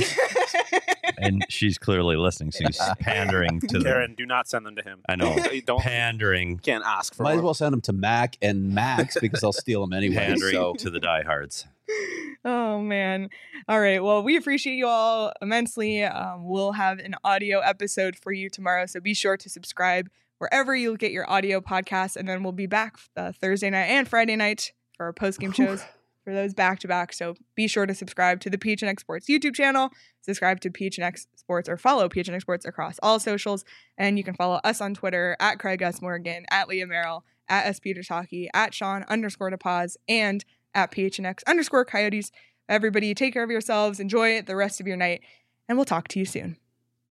Speaker 3: And she's clearly listening. So he's pandering to the.
Speaker 5: Karen, do not send them to him.
Speaker 3: I know.
Speaker 5: You don't
Speaker 3: Pandering.
Speaker 5: can't ask for
Speaker 2: Might as
Speaker 5: more.
Speaker 2: well send them to Mac and Max because I'll steal them anyway.
Speaker 3: Pandering
Speaker 2: So
Speaker 3: to the diehards.
Speaker 1: Oh man. All right. Well, we appreciate you all immensely. Um, we'll have an audio episode for you tomorrow, so be sure to subscribe wherever you get your audio podcasts, and then we'll be back uh, Thursday night and Friday night for our post game shows for those back to back. So be sure to subscribe to the P H N X Sports YouTube channel, subscribe to P H N X Sports, or follow P H N X Sports across all socials, and you can follow us on Twitter at Craig S. Morgan, at Leah Merrill, at S. Peters Hockey, at Sean underscore DePaz, and at P H N X underscore Coyotes. Everybody, take care of yourselves, enjoy the rest of your night, and we'll talk to you soon.